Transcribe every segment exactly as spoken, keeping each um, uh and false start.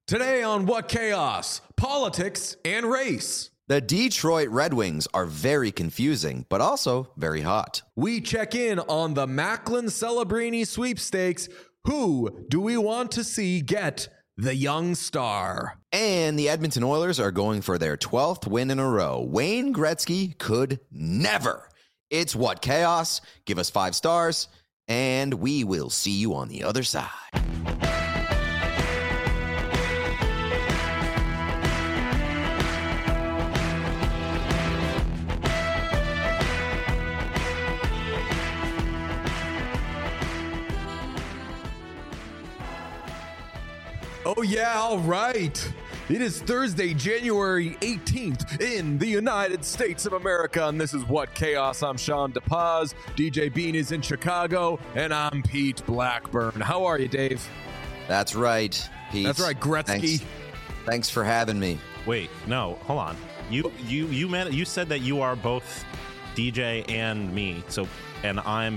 Today on What Chaos? Politics and race. The Detroit Red Wings are very confusing, but also very hot. We check in on the Macklin Celebrini sweepstakes. Who do we want to see get the young star? And the Edmonton Oilers are going for their twelfth win in a row. Wayne Gretzky could never. It's What Chaos? Give us five stars, and we will see you on the other side. Oh, yeah, all right. It is Thursday, January eighteenth in the United States of America, and this is What Chaos? I'm Sean DePaz. D J Bean is in Chicago, and I'm Pete Blackburn. How are you, Dave? That's right, Pete. That's right, Gretzky. Thanks, Thanks for having me. Wait, no, hold on. You you you meant you said that you are both D J and me. So, and I'm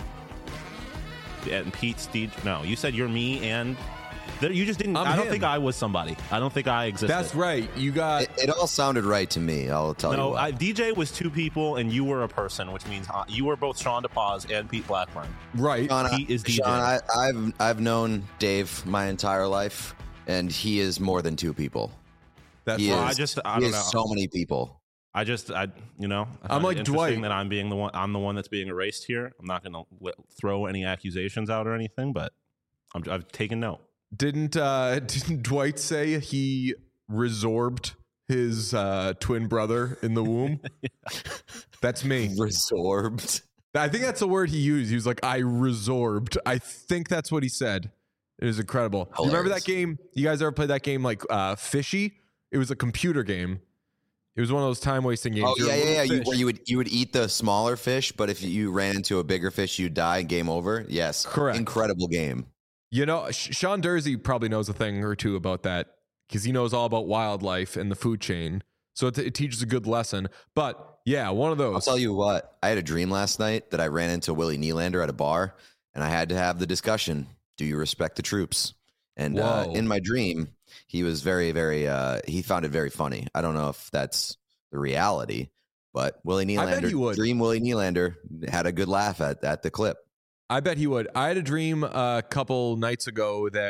and Pete's D J. No, you said you're me and. You just didn't. I'm I don't him. think I was somebody. I don't think I existed. That's right. You got It, it all sounded right to me. I'll tell you. no. what. I, D J was two people, and you were a person, which means uh, you were both Sean DePaz and Pete Blackburn. right. Sean, Pete is D J. Sean, I, I've I've known Dave my entire life, and he is more than two people. That's He Well, right. is, I just- I he don't is know. so many people. I just, I, you know, I I'm find like it interesting Dwight. that I'm being the one. I'm the one that's being erased here. I'm not going to throw any accusations out or anything, but I'm, I've taken note. Didn't uh, didn't Dwight say he resorbed his uh, twin brother in the womb? That's me. Resorbed. I think that's the word he used. He was like, I resorbed. I think that's what he said. It was incredible. You remember that Hilarious. game? You guys ever played that game like uh, Fishy? It was a computer game. It was one of those time wasting games. Oh You're a yeah, yeah, yeah. little You, fish. where you would you would eat the smaller fish, but if you ran into a bigger fish, you'd die. Game over. Yes, Correct. Incredible game. You know, Sh- Sean Dursey probably knows a thing or two about that because he knows all about wildlife and the food chain. So it, it teaches a good lesson. But yeah, one of those. I'll tell you what. I had a dream last night that I ran into Willie Nylander at a bar, and I had to have the discussion: do you respect the troops? And uh, Whoa. in my dream, he was very, very. Uh, he found it very funny. I don't know if that's the reality, but Willie I bet he Nylander, would. dream Willie Nylander, had a good laugh at at the clip. I bet he would. I had a dream a couple nights ago that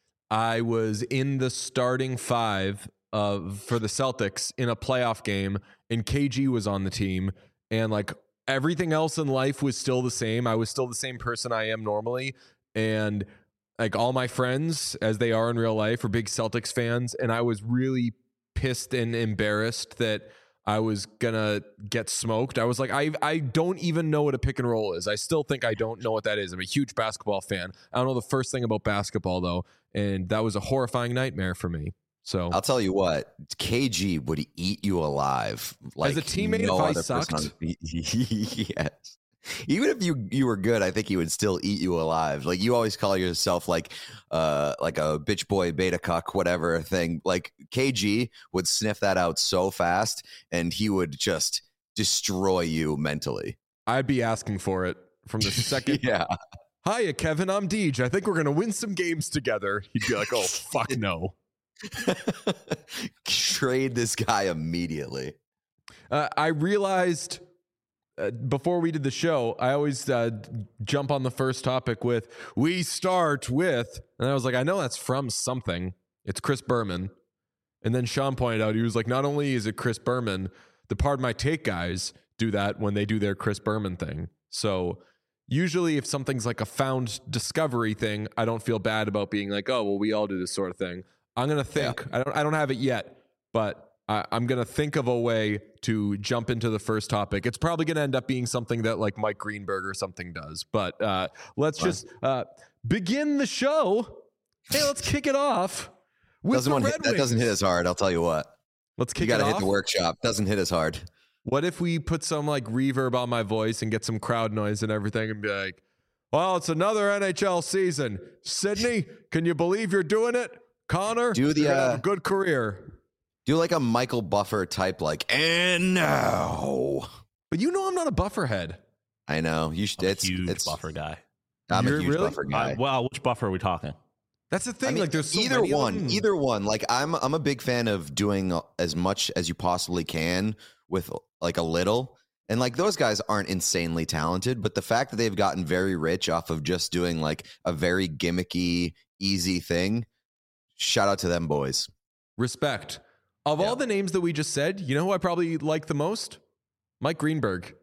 I was in the starting five of for the Celtics in a playoff game, and K G was on the team, and like everything else in life was still the same. I was still the same person I am normally, and like all my friends, as they are in real life, are big Celtics fans, and I was really pissed and embarrassed that I was gonna get smoked. I was like, I I don't even know what a pick and roll is. I still think I don't know what that is. I'm a huge basketball fan. I don't know the first thing about basketball though, and that was a horrifying nightmare for me. So I'll tell you what, K G would eat you alive. Like As a teammate, no if I other sucked? person on- yes. Even if you you were good, I think he would still eat you alive. Like you always call yourself like uh like a bitch boy, beta cuck, whatever thing. Like K G would sniff that out so fast, and he would just destroy you mentally. I'd be asking for it from the second. Yeah. Hiya, Kevin. I'm Deej. I think we're gonna win some games together. He'd be like, oh fuck no. Trade this guy immediately. Uh, I realized uh, before we did the show, I always uh, jump on the first topic with, we start with, and I was like, I know that's from something. It's Chris Berman. And then Sean pointed out, he was like, not only is it Chris Berman, the Pardon My Take guys do that when they do their Chris Berman thing. So usually if something's like a found discovery thing, I don't feel bad about being like, oh, well, we all do this sort of thing. I'm going to think, I don't, I don't have it yet, but I, I'm going to think of a way to jump into the first topic. It's probably going to end up being something that like Mike Greenberg or something does, but uh, let's Fine. just uh, begin the show. Hey, let's kick it off with Doesn't the one Red hit, that doesn't Wings. hit as hard. I'll tell you what. Let's You kick got it to hit off. the workshop. Doesn't hit as hard. What if we put some like reverb on my voice and get some crowd noise and everything and be like, well, it's another N H L season. Sydney, can you believe you're doing it? Connor, Do the, you're gonna have uh, a good career. Do like a Michael Buffer type, like, and now. But you know I'm not a buffer head. I know you should. I'm a It's huge it's buffer guy. I'm You're a huge really? Buffer guy. Uh, well, which buffer are we talking? That's the thing. I mean, like, there's so either many of one, them. either one. Like, I'm I'm a big fan of doing as much as you possibly can with like a little. And like those guys aren't insanely talented, but the fact that they've gotten very rich off of just doing like a very gimmicky, easy thing, shout out to them boys. Respect. Of Yeah. all the names that we just said, you know who I probably like the most? Mike Greenberg.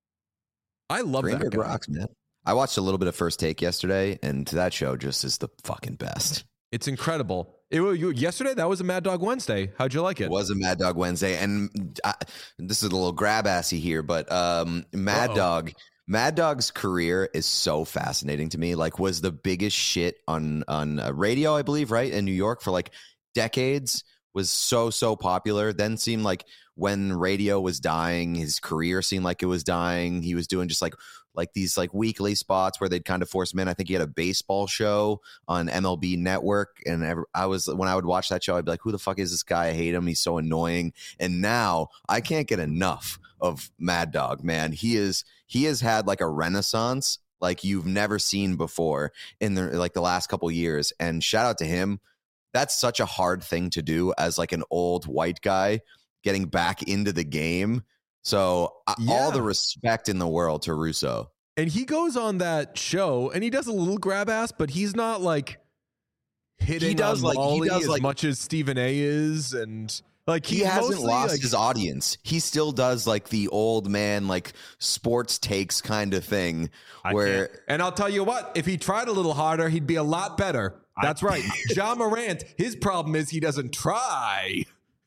I love Greenberg that guy. rocks, man. I watched a little bit of First Take yesterday, and that show just is the fucking best. It's incredible. It was you, yesterday. That was a Mad Dog Wednesday. How'd you like it? It was a Mad Dog Wednesday, and I, this is a little grab assy here, but um, Mad Uh-oh. Dog, Mad Dog's career is so fascinating to me. Like, was the biggest shit on on uh, radio, I believe, right in New York for like decades. Was so so popular. Then seemed like when radio was dying, his career seemed like it was dying. He was doing just like like these like weekly spots where they'd kind of force him in. I think he had a baseball show on M L B Network, and ever, I was when I would watch that show, I'd be like, "Who the fuck is this guy? I hate him. He's so annoying." And now I can't get enough of Mad Dog. Man, he is he has had like a renaissance like you've never seen before in the like the last couple years. And shout out to him. That's such a hard thing to do as like an old white guy getting back into the game. So uh, Yeah. all the respect in the world to Russo. And he goes on that show and he does a little grab ass, but he's not like hitting He does, on like- he Molly does, as like- much as Stephen A is, and like He he's hasn't mostly, lost like- his audience. He still does like the old man, like sports takes kind of thing I where can't- And I'll tell you what, if he tried a little harder, he'd be a lot better. That's right. John Morant, his problem is he doesn't try.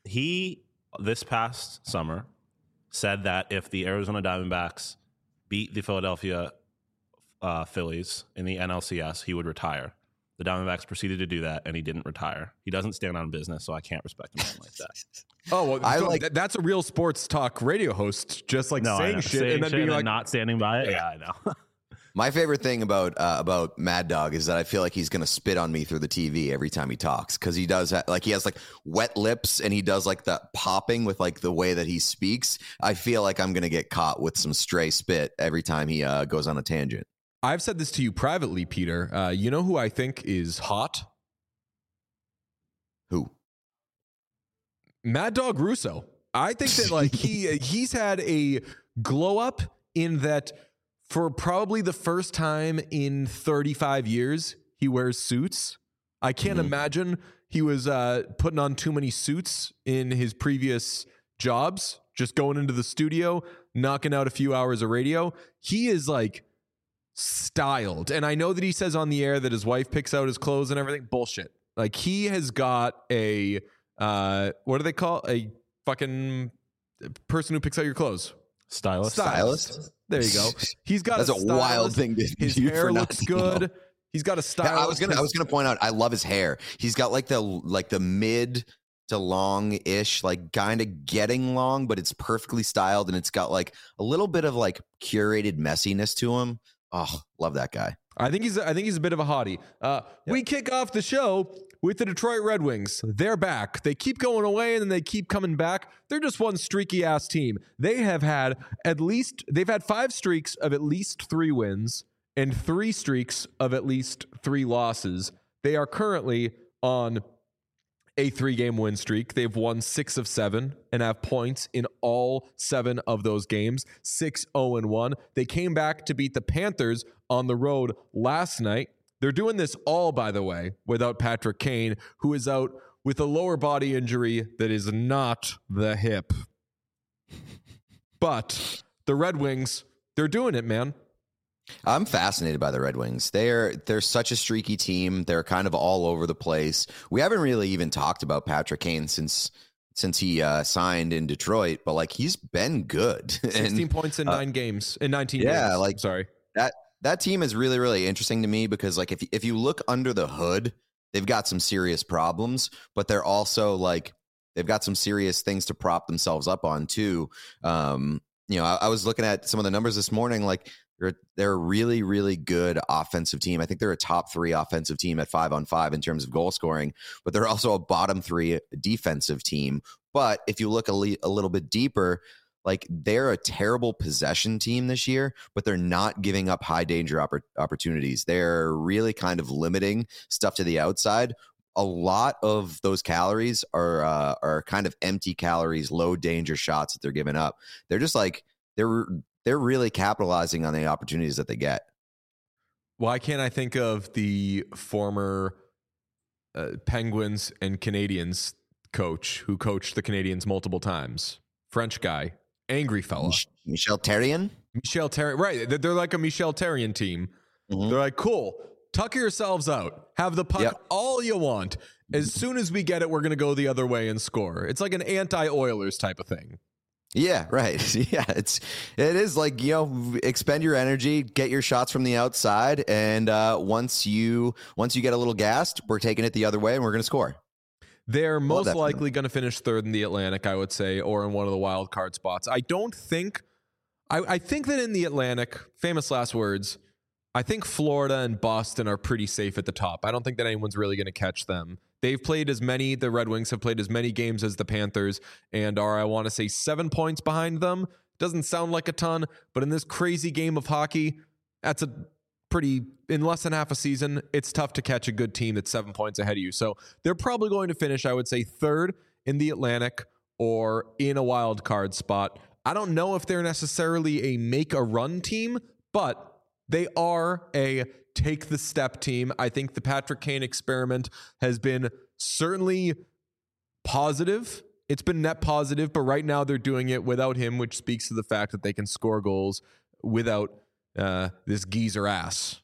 He, this past summer, said that if the Arizona Diamondbacks beat the Philadelphia uh, Phillies in the N L C S, he would retire. The Diamondbacks proceeded to do that, and he didn't retire. He doesn't stand on business, so I can't respect him like that. Oh, well, I so like- th- that's a real sports talk radio host, just like No, I saying know. shit Saying and then shit being and like, not standing by it. Yeah, I know. my favorite thing about uh, about Mad Dog is that I feel like he's gonna spit on me through the T V every time he talks because he does ha- like he has like wet lips and he does like the popping with like the way that he speaks. I feel like I'm gonna get caught with some stray spit every time he uh, goes on a tangent. I've said this to you privately, Peter. Uh, you know who I think is hot? Who? Mad Dog Russo. I think that like he he's had a glow up in that for probably the first time in thirty-five years he wears suits. I can't Mhm. imagine he was uh, putting on too many suits in his previous jobs. Just going into the studio, knocking out a few hours of radio. He is like styled, and I know that he says on the air that his wife picks out his clothes and everything. Bullshit. Like he has got a uh, what do they call a fucking person who picks out your clothes? Stylist. Stylist? There you go. He's got That's a, a wild stylist. thing to His do hair for not looks to know. good. He's got a Yeah, stylist. I was gonna I was gonna point out I love his hair. He's got like the like the mid to long-ish, like kind of getting long, but it's perfectly styled and it's got like a little bit of like curated messiness to him. Oh, love that guy. I think he's. I think he's a bit of a hottie. Uh, We kick off the show with the Detroit Red Wings. They're back. They keep going away and then they keep coming back. They're just one streaky ass team. They have had at least. They've had five streaks of at least three wins and three streaks of at least three losses. They are currently on a three-game win streak. They've won six of seven and have points in all seven of those games, six oh and one. They came back to beat the Panthers on the road last night. They're doing this all, by the way, without Patrick Kane, who is out with a lower body injury that is not the hip. But the Red Wings, they're doing it, man. I'm fascinated by the Red Wings. They're they're such a streaky team. They're kind of all over the place. We haven't really even talked about Patrick Kane since since he uh, signed in Detroit, but like he's been good. sixteen And points in uh, nine games, in nineteen yeah, games. like- sorry. that that team is really really interesting to me because like if if you look under the hood, they've got some serious problems, but they're also like they've got some serious things to prop themselves up on too. Um, you know, I, I was looking at some of the numbers this morning, like. They're, they're a really, really good offensive team. I think they're a top three offensive team at five on five in terms of goal scoring, but they're also a bottom three defensive team. But if you look a, le- a little bit deeper, like they're a terrible possession team this year, but they're not giving up high danger oppor- opportunities. They're really kind of limiting stuff to the outside. A lot of those calories are uh, are kind of empty calories, low danger shots that they're giving up. They're just like they're they're really capitalizing on the opportunities that they get. Why can't I think of the former uh, Penguins and Canadians coach who coached the Canadians multiple times? French guy, angry fella. Mich- Michel Therrien? Michel Therrien. Right. They're- They're like a Michel Therrien team. Mhm. They're like, cool, tuck yourselves out. Have the puck Yep. all you want. As soon as we get it, we're going to go the other way and score. It's like an anti-Oilers type of thing. Yeah, right. Yeah, it's it is like, you know, expend your energy, get your shots from the outside, and uh, once you once you get a little gassed, we're taking it the other way and we're going to score. They're most that likely going to finish third in the Atlantic, I would say, or in one of the wild card spots. I don't think, I, I think that in the Atlantic, famous last words, I think Florida and Boston are pretty safe at the top. I don't think that anyone's really going to catch them. They've played as many, the Red Wings have played as many games as the Panthers and are, I want to say, seven points behind them. Doesn't sound like a ton, but in this crazy game of hockey, that's a pretty, in less than half a season, it's tough to catch a good team that's seven points ahead of you. So they're probably going to finish, I would say, third in the Atlantic or in a wild card spot. I don't know if they're necessarily a make a run team, but they are a take the step team. I think the Patrick Kane experiment has been certainly positive. It's been net positive, but right now they're doing it without him, which speaks to the fact that they can score goals without uh, this geezer ass.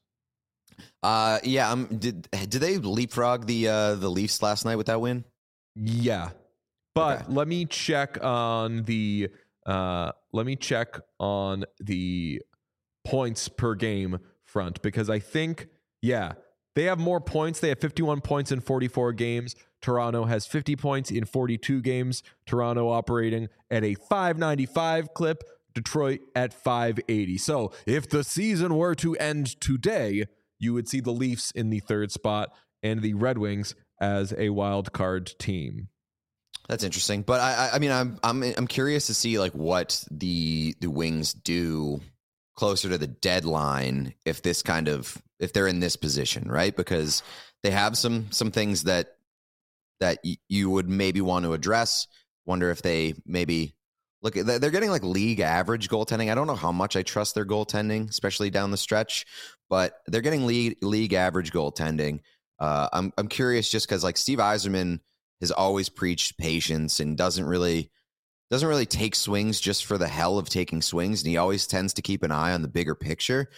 Uh, yeah. Um, did did they leapfrog the uh, the Leafs last night with that win? Yeah, but Okay. let me check on the uh, let me check on the points per game front, because I think, yeah, they have more points. They have fifty-one points in forty-four games. Toronto has fifty points in forty-two games. Toronto operating at a five ninety-five clip. Detroit at five eighty. So if the season were to end today, you would see the Leafs in the third spot and the Red Wings as a wild card team. That's interesting, but I, I mean, I'm, I'm, I'm curious to see like what the the Wings do closer to the deadline if this kind of if they're in this position, right? Because they have some some things that that y- you would maybe want to address. Wonder if they maybe look at they're getting like league average goaltending. I don't know how much I trust their goaltending, especially down the stretch, but they're getting league league average goaltending. Uh, I'm I'm curious just because like Steve Yzerman has always preached patience and doesn't really doesn't really take swings just for the hell of taking swings, and he always tends to keep an eye on the bigger picture.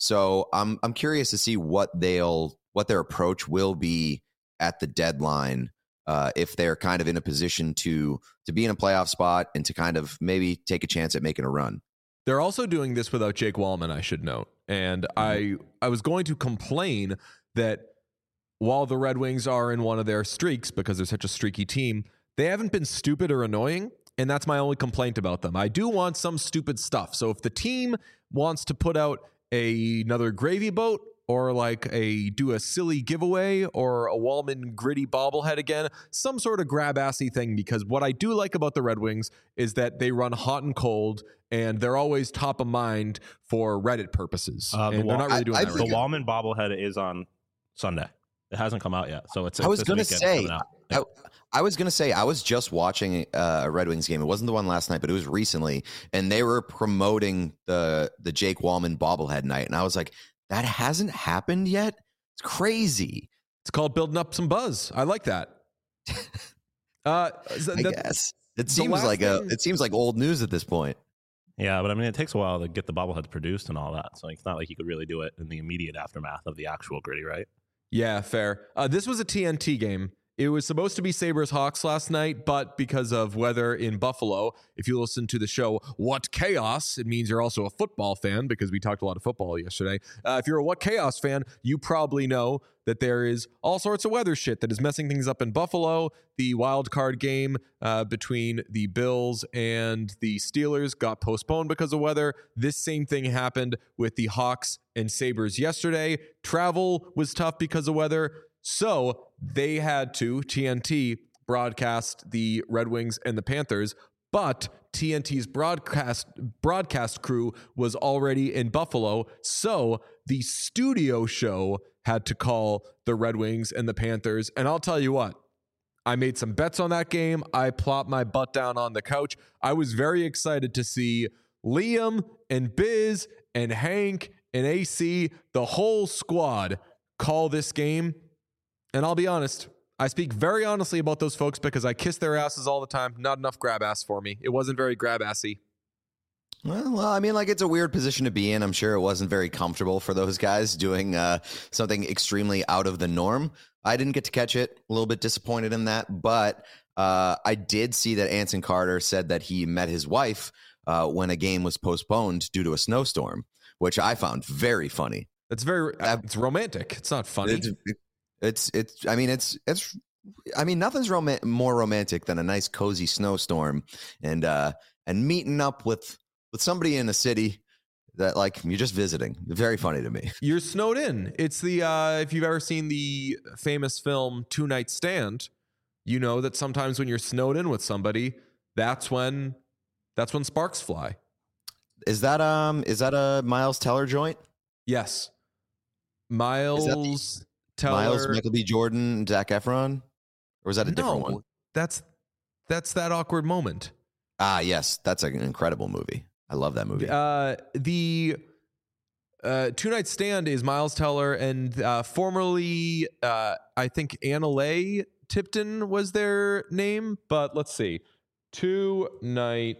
So I'm I'm curious to see what they'll what their approach will be at the deadline, uh, if they're kind of in a position to to be in a playoff spot and to kind of maybe take a chance at making a run. They're also doing this without Jake Wallman, I should note. And mm-hmm. I I was going to complain that while the Red Wings are in one of their streaks, because they're such a streaky team, they haven't been stupid or annoying. And that's my only complaint about them. I do want some stupid stuff. So if the team wants to put out a, another gravy boat, or like a do a silly giveaway, or a Wallman gritty bobblehead again, some sort of grab-assy thing, because what I do like about the Red Wings is that they run hot and cold, and they're always top of mind for Reddit purposes. Uh, the and they're Wall- not really doing I- I that The right think- now. Wallman bobblehead is on Sunday. It hasn't come out yet, so it's. I it's was this gonna weekend say, coming out. I, I was gonna say, I was just watching uh, a Red Wings game. It wasn't the one last night, but it was recently, and they were promoting the the Jake Wallman bobblehead night, and I was like, that hasn't happened yet. It's crazy. It's called building up some buzz. I like that. Uh, so I that- guess it the seems last like a thing- it seems like old news at this point. Yeah, but I mean, it takes a while to get the bobbleheads produced and all that. So it's not like you could really do it in the immediate aftermath of the actual gritty, right? Yeah, fair. Uh, this was a T N T game. It was supposed to be Sabres Hawks last night, but because of weather in Buffalo, if you listen to the show What Chaos, it means you're also a football fan, because we talked a lot of football yesterday. Uh, if you're a What Chaos fan, you probably know that there is all sorts of weather shit that is messing things up in Buffalo. The wild card game uh, between the Bills and the Steelers got postponed because of weather. This same thing happened with the Hawks and Sabres yesterday. Travel was tough because of weather. So they had to, T N T, broadcast the Red Wings and the Panthers but T N T's broadcast broadcast crew was already in Buffalo, so the studio show had to call the Red Wings and the Panthers. And I'll tell you what, I made some bets on that game. I plopped my butt down on the couch. I was very excited to see Liam and Biz and Hank and A C, the whole squad, call this game. And I'll be honest, I speak very honestly about those folks because I kiss their asses all the time. Not enough grab ass for me. It wasn't very grab assy. Well, well, I mean, like, it's a weird position to be in. I'm sure it wasn't very comfortable for those guys doing uh, something extremely out of the norm. I didn't get to catch it. A little bit disappointed in that. But uh, I did see that Anson Carter said that he met his wife uh, when a game was postponed due to a snowstorm, which I found very funny. It's very, Uh, it's romantic. It's not funny. It's, it's, it's, I mean, it's, it's, I mean, nothing's rom- more romantic than a nice, cozy snowstorm and, uh, and meeting up with, with somebody in a city that, like, you're just visiting. Very funny to me. You're snowed in. It's the, uh, if you've ever seen the famous film Two Night Stand, you know that sometimes when you're snowed in with somebody, that's when, that's when sparks fly. Is that, um, is that a Miles Teller joint? Yes. Miles the- Teller. Miles, Michael B. Jordan, Zac Efron? Or was that a different No, one? That's, that's that awkward moment. Ah, yes. That's an incredible movie. I love that movie. Uh, the uh, Two Night Stand is Miles Teller and uh, formerly, uh, I think Anna Leigh Tipton was their name, but let's see. Two Night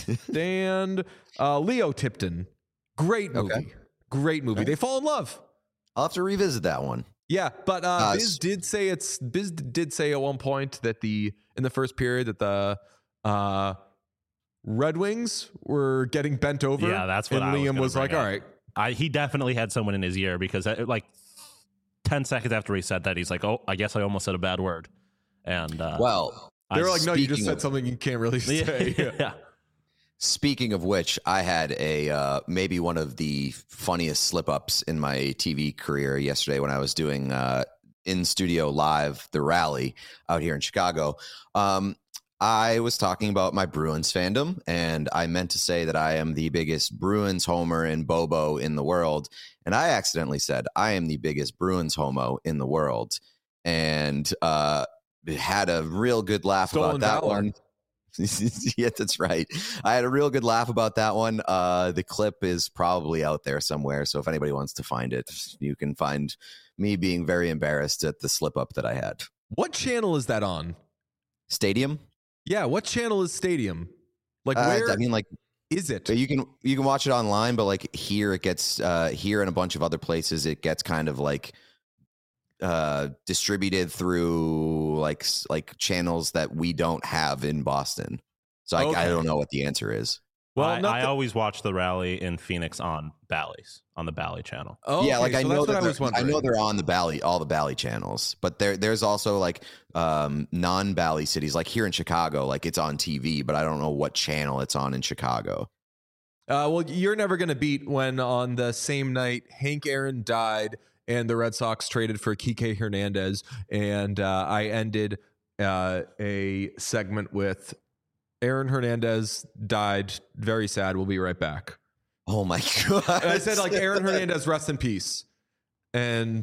Stand, uh, Leo Tipton. Great movie. Okay. Great movie. Okay. They fall in love. I'll have to revisit that one. Yeah, but uh, Uh, Biz did say it's Biz did say at one point that the in the first period that the uh, Red Wings were getting bent over. Yeah, that's what and I was Liam gonna was like, bring "All up. right, I, he definitely had someone in his ear because uh, like ten seconds after he said that, he's like, "Oh, I guess I almost said a bad word." And uh, Well, They were I- like, no, you just speaking said of- something you can't really say. yeah, yeah. speaking of which, I had a uh, maybe one of the funniest slip ups in my T V career yesterday when I was doing uh, in studio live the rally out here in Chicago. Um, I was talking about my Bruins fandom, and I meant to say that I am the biggest Bruins homer and Bobo in the world. And I accidentally said I am the biggest Bruins homo in the world, and uh, had a real good laugh Stolen about that valor. one. Yeah, that's right. I had a real good laugh about that one. Uh, the clip is probably out there somewhere, so if anybody wants to find it, you can find me being very embarrassed at the slip up that I had. What channel is that on? Stadium? Yeah, what channel is Stadium? Like, Uh, where I mean, like is it? you can you can watch it online, but like here it gets uh, here and a bunch of other places it gets kind of like uh, distributed through like s- like channels that we don't have in Boston. So I, Okay. I don't know what the answer is. Well, I, I nothing- always watch the rally in Phoenix on Bally's on the Bally channel. Oh, Yeah, like okay, I so know that's that what I was they're- I wondering. know they're on the Bally, all the Bally channels, but there there's also like um, non-Bally cities, like here in Chicago, like it's on T V, but I don't know what channel it's on in Chicago. Uh, well, you're never going to beat when on the same night Hank Aaron died and the Red Sox traded for Kike Hernandez, and uh, I ended uh, a segment with Aaron Hernandez died. Very sad. We'll be right back. Oh my god! And I said like Aaron Hernandez, rest in peace. And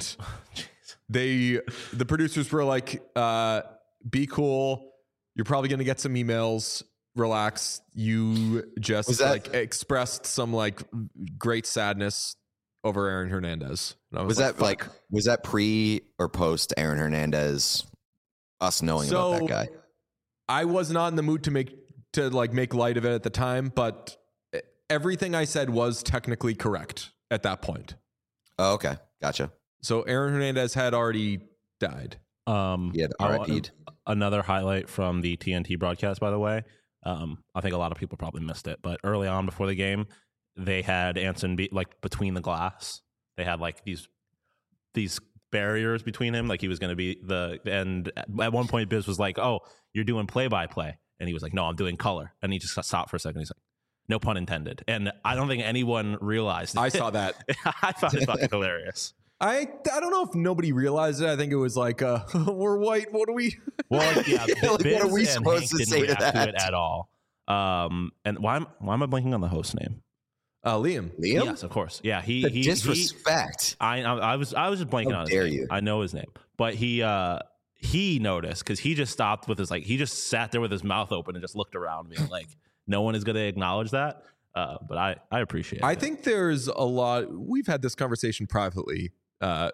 they, the producers were like, uh, "Be cool. You're probably going to get some emails. Relax." You just Was that- like expressed some like great sadness over Aaron Hernandez. And I was was, that like "Fuck." was that pre or post Aaron Hernandez? Us knowing So about that guy. I was not in the mood to make to like make light of it at the time, but everything I said was technically correct at that point. Oh, okay, gotcha. So Aaron Hernandez had already died. Um, He had I R wa- I P'd. Another highlight from the T N T broadcast, by the way. Um, I think a lot of people probably missed it, but early on before the game, they had Anson be like between the glass. They had like these these barriers between him, like he was going to be the. And at one point, Biz was like, "Oh, you're doing play by play," and he was like, "No, I'm doing color." And he just got stopped for a second. He's like, "No pun intended." And I don't think anyone realized. I it. saw that. I found it fucking hilarious. I I don't know if nobody realized it. I think it was like, uh, we're white. What do we? Well, yeah, Like, what Biz are we and supposed Hank to didn't say to react to that? it at all. Um, and why am why am I blanking on the host name? Uh, Liam. Liam? Yes, of course. Yeah, he The he disrespect. He, I, I I was I was just blanking How on his dare name. you. I know his name, but he uh he noticed because he just stopped with his like he just sat there with his mouth open and just looked around me like no one is going to acknowledge that. Uh, but I I appreciate. I it. think there's a lot. We've had this conversation privately, uh,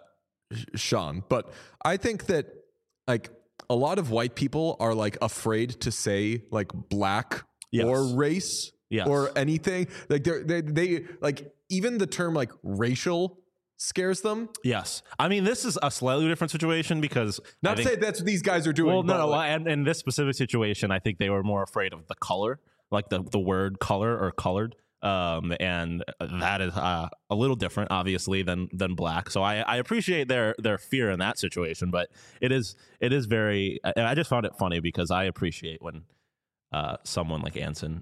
Sean, but I think that like a lot of white people are like afraid to say like black Yes. or race Yes. or anything. Like they're, they they like even the term like racial scares them. Yes, I mean this is a slightly different situation because Not I to think, say that's what these guys are doing. well, no, but, no, like, and in this specific situation, I think they were more afraid of the color, like the the word color or colored. Um, and that is uh, a little different, obviously, than than black. So I, I appreciate their their fear in that situation, but it is it is very. And I just found it funny because I appreciate when uh, someone like Anson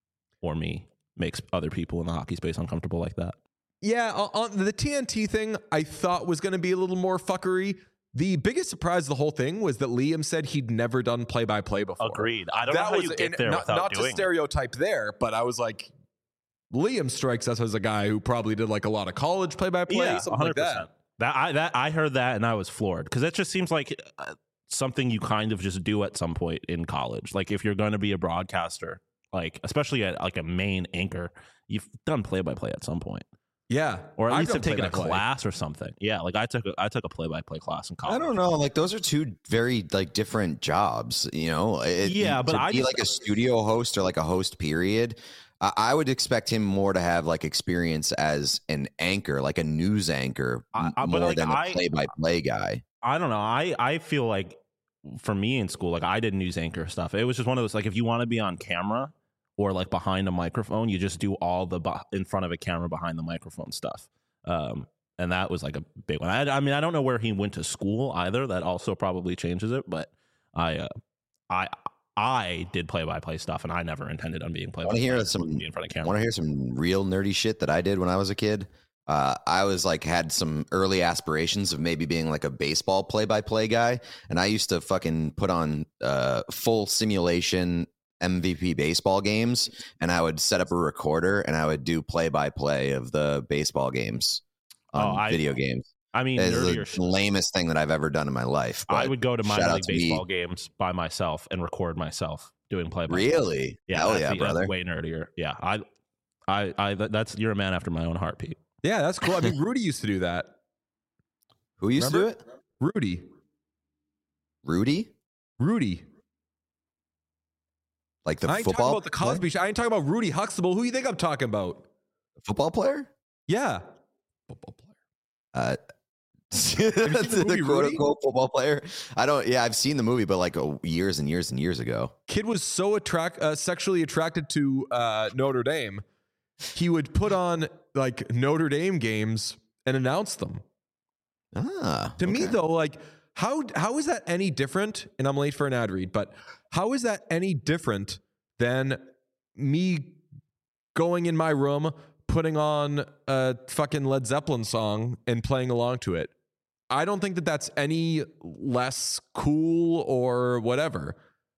or me makes other people in the hockey space uncomfortable like that. Yeah, on on the T N T thing, I thought was going to be a little more fuckery. The biggest surprise of the whole thing was that Liam said he'd never done play-by-play before. Agreed. I don't that know how was you get and there not, without not doing to it. stereotype there, but I was like, Liam strikes us as a guy who probably did like a lot of college play-by-play, Yeah, something like that. one hundred percent. That I that I heard that and I was floored because it just seems like uh, something you kind of just do at some point in college. Like if you're going to be a broadcaster, like especially at like a main anchor, you've done play by play at some point, Yeah, or at I've least done have taken a play-by-play. class or something. Yeah, like I took a, I took a play by play class in college. I don't know. Like those are two very like different jobs. You know. It, Yeah, but to I be just- like a studio host or like a host. Period. I, I would expect him more to have like experience as an anchor, like a news anchor, I- I- but, more like, than a I- play-by-play guy. I don't know. I, I feel like for me in school, like I did news anchor stuff. It was just one of those, like if you want to be on camera or like behind a microphone, you just do all the bu- in front of a camera behind the microphone stuff. Um, and that was like a big one. I, I mean, I don't know where he went to school either. That also probably changes it. But I, uh, I, I did play by play stuff, and I never intended on being play by Want to play. hear some? in front of camera? Want to hear some real nerdy shit that I did when I was a kid? Uh, I was like had some early aspirations of maybe being like a baseball play-by-play guy, and I used to fucking put on uh, full simulation M V P baseball games, and I would set up a recorder and I would do play-by-play of the baseball games on Oh, I- video games. I mean, It's nerdier the shit. lamest thing that I've ever done in my life. I but would go to shout minor out league to me. baseball games by myself and record myself doing play by Really? Yeah, Hell that's, yeah, that's brother. way nerdier. Yeah, I, I, I. that- That's you're a man after my own heart, Pete. Yeah, that's cool. I mean, Rudy used to do that. Who used Remember? to do it? Rudy, Rudy? Rudy. Like the I ain't football talking about the Cosby Show. I ain't talking about Rudy Huxtable. Who you think I'm talking about? football player? Yeah, football player. Uh, seen the movie, the quote Rudy? unquote football player. I don't. Yeah, I've seen the movie, but like oh, years and years and years ago. Kid was so attract uh, sexually attracted to uh, Notre Dame, he would put on like Notre Dame games and announce them. Ah, To me, okay. though, like how how is that any different? And I'm late for an ad read, but how is that any different than me going in my room, putting on a fucking Led Zeppelin song and playing along to it? I don't think that that's any less cool or whatever.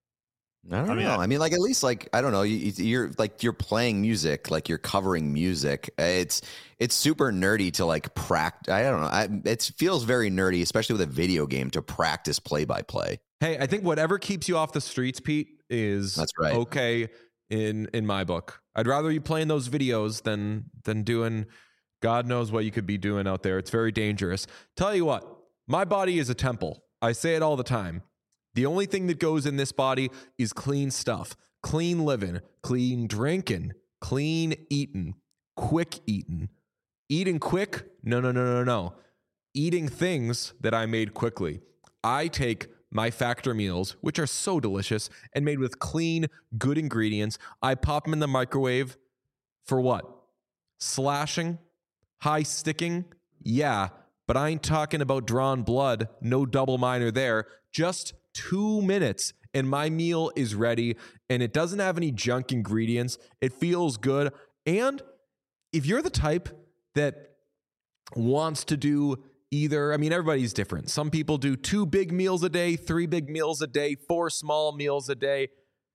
I don't I mean, know. I- I mean, like at least like I don't know. You, you're like you're playing music, like you're covering music. It's it's super nerdy to like practice. I don't know. I, it feels very nerdy, especially with a video game, to practice play by play. Hey, I think whatever keeps you off the streets, Pete, is That's right. okay in in my book. I'd rather you playing those videos than than doing God knows what you could be doing out there. It's very dangerous. Tell you what, my body is a temple. I say it all the time. The only thing that goes in this body is clean stuff, clean living, clean drinking, clean eating, quick eating. Eating quick? No, no, no, no, no. Eating things that I made quickly. I take my Factor meals, which are so delicious and made with clean, good ingredients. I pop them in the microwave for what? Slashing? High sticking? Yeah, but I ain't talking about drawn blood. No double minor there. Just two minutes and my meal is ready, and it doesn't have any junk ingredients. It feels good. And if you're the type that wants to do either, I mean, everybody's different. Some people do two big meals a day, three big meals a day, four small meals a day.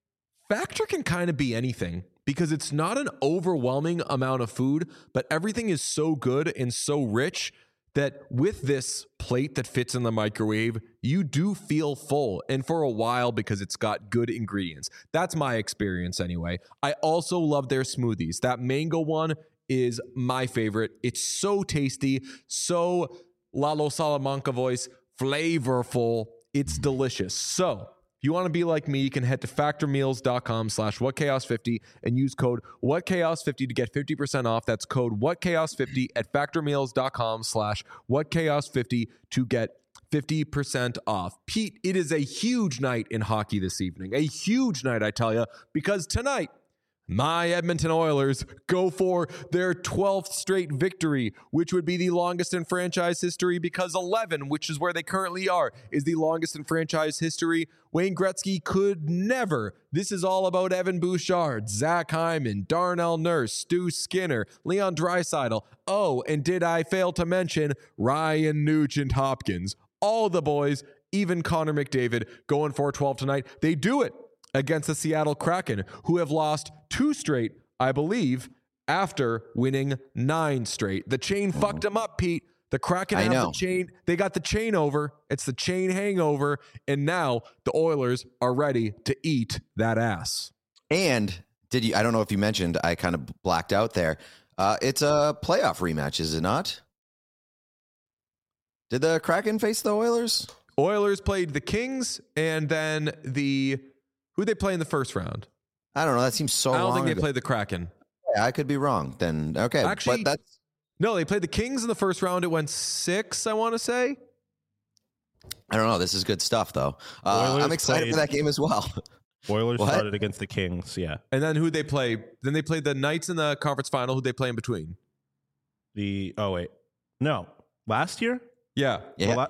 Factor can kind of be anything because it's not an overwhelming amount of food, but everything is so good and so rich that with this plate that fits in the microwave, you do feel full, and for a while because it's got good ingredients. That's my experience anyway. I also love their smoothies. That mango one is my favorite. It's so tasty, so Lalo Salamanca voice, flavorful. It's delicious. So if you want to be like me, you can head to factormeals.com slash whatchaos50 and use code whatchaos50 to get fifty percent off. That's code whatchaos50 at factormeals.com slash whatchaos50 to get fifty percent off. Pete, it is a huge night in hockey this evening. A huge night, I tell you, because tonight, my Edmonton Oilers go for their twelfth straight victory, which would be the longest in franchise history because eleven, which is where they currently are, is the longest in franchise history. Wayne Gretzky could never. This is all about Evan Bouchard, Zach Hyman, Darnell Nurse, Stu Skinner, Leon Draisaitl. Oh, and did I fail to mention Ryan Nugent-Hopkins? All the boys, even Connor McDavid, going for twelve tonight. They do it against the Seattle Kraken, who have lost two straight, I believe, after winning nine straight. The chain mm-hmm. fucked them up, Pete. The Kraken I have know. the chain. They got the chain over. It's the chain hangover. And now the Oilers are ready to eat that ass. And did you, I don't know if you mentioned, I kind of blacked out there. Uh, it's a playoff rematch, is it not? Did the Kraken face the Oilers? Oilers played the Kings and then the... Who'd they play in the first round? I don't know. That seems so I don't long think they ago. played the Kraken. Yeah, I could be wrong. Then, okay. Actually, but that's... no, they played the Kings in the first round. It went six, I want to say. I don't know. This is good stuff, though. Uh, I'm excited played, for that game as well. Oilers What? started against the Kings, yeah. And then who'd they play? Then they played the Knights in the conference final. Who'd they play in between? The, oh, wait. No. Last year? Yeah. Yeah. Well, that,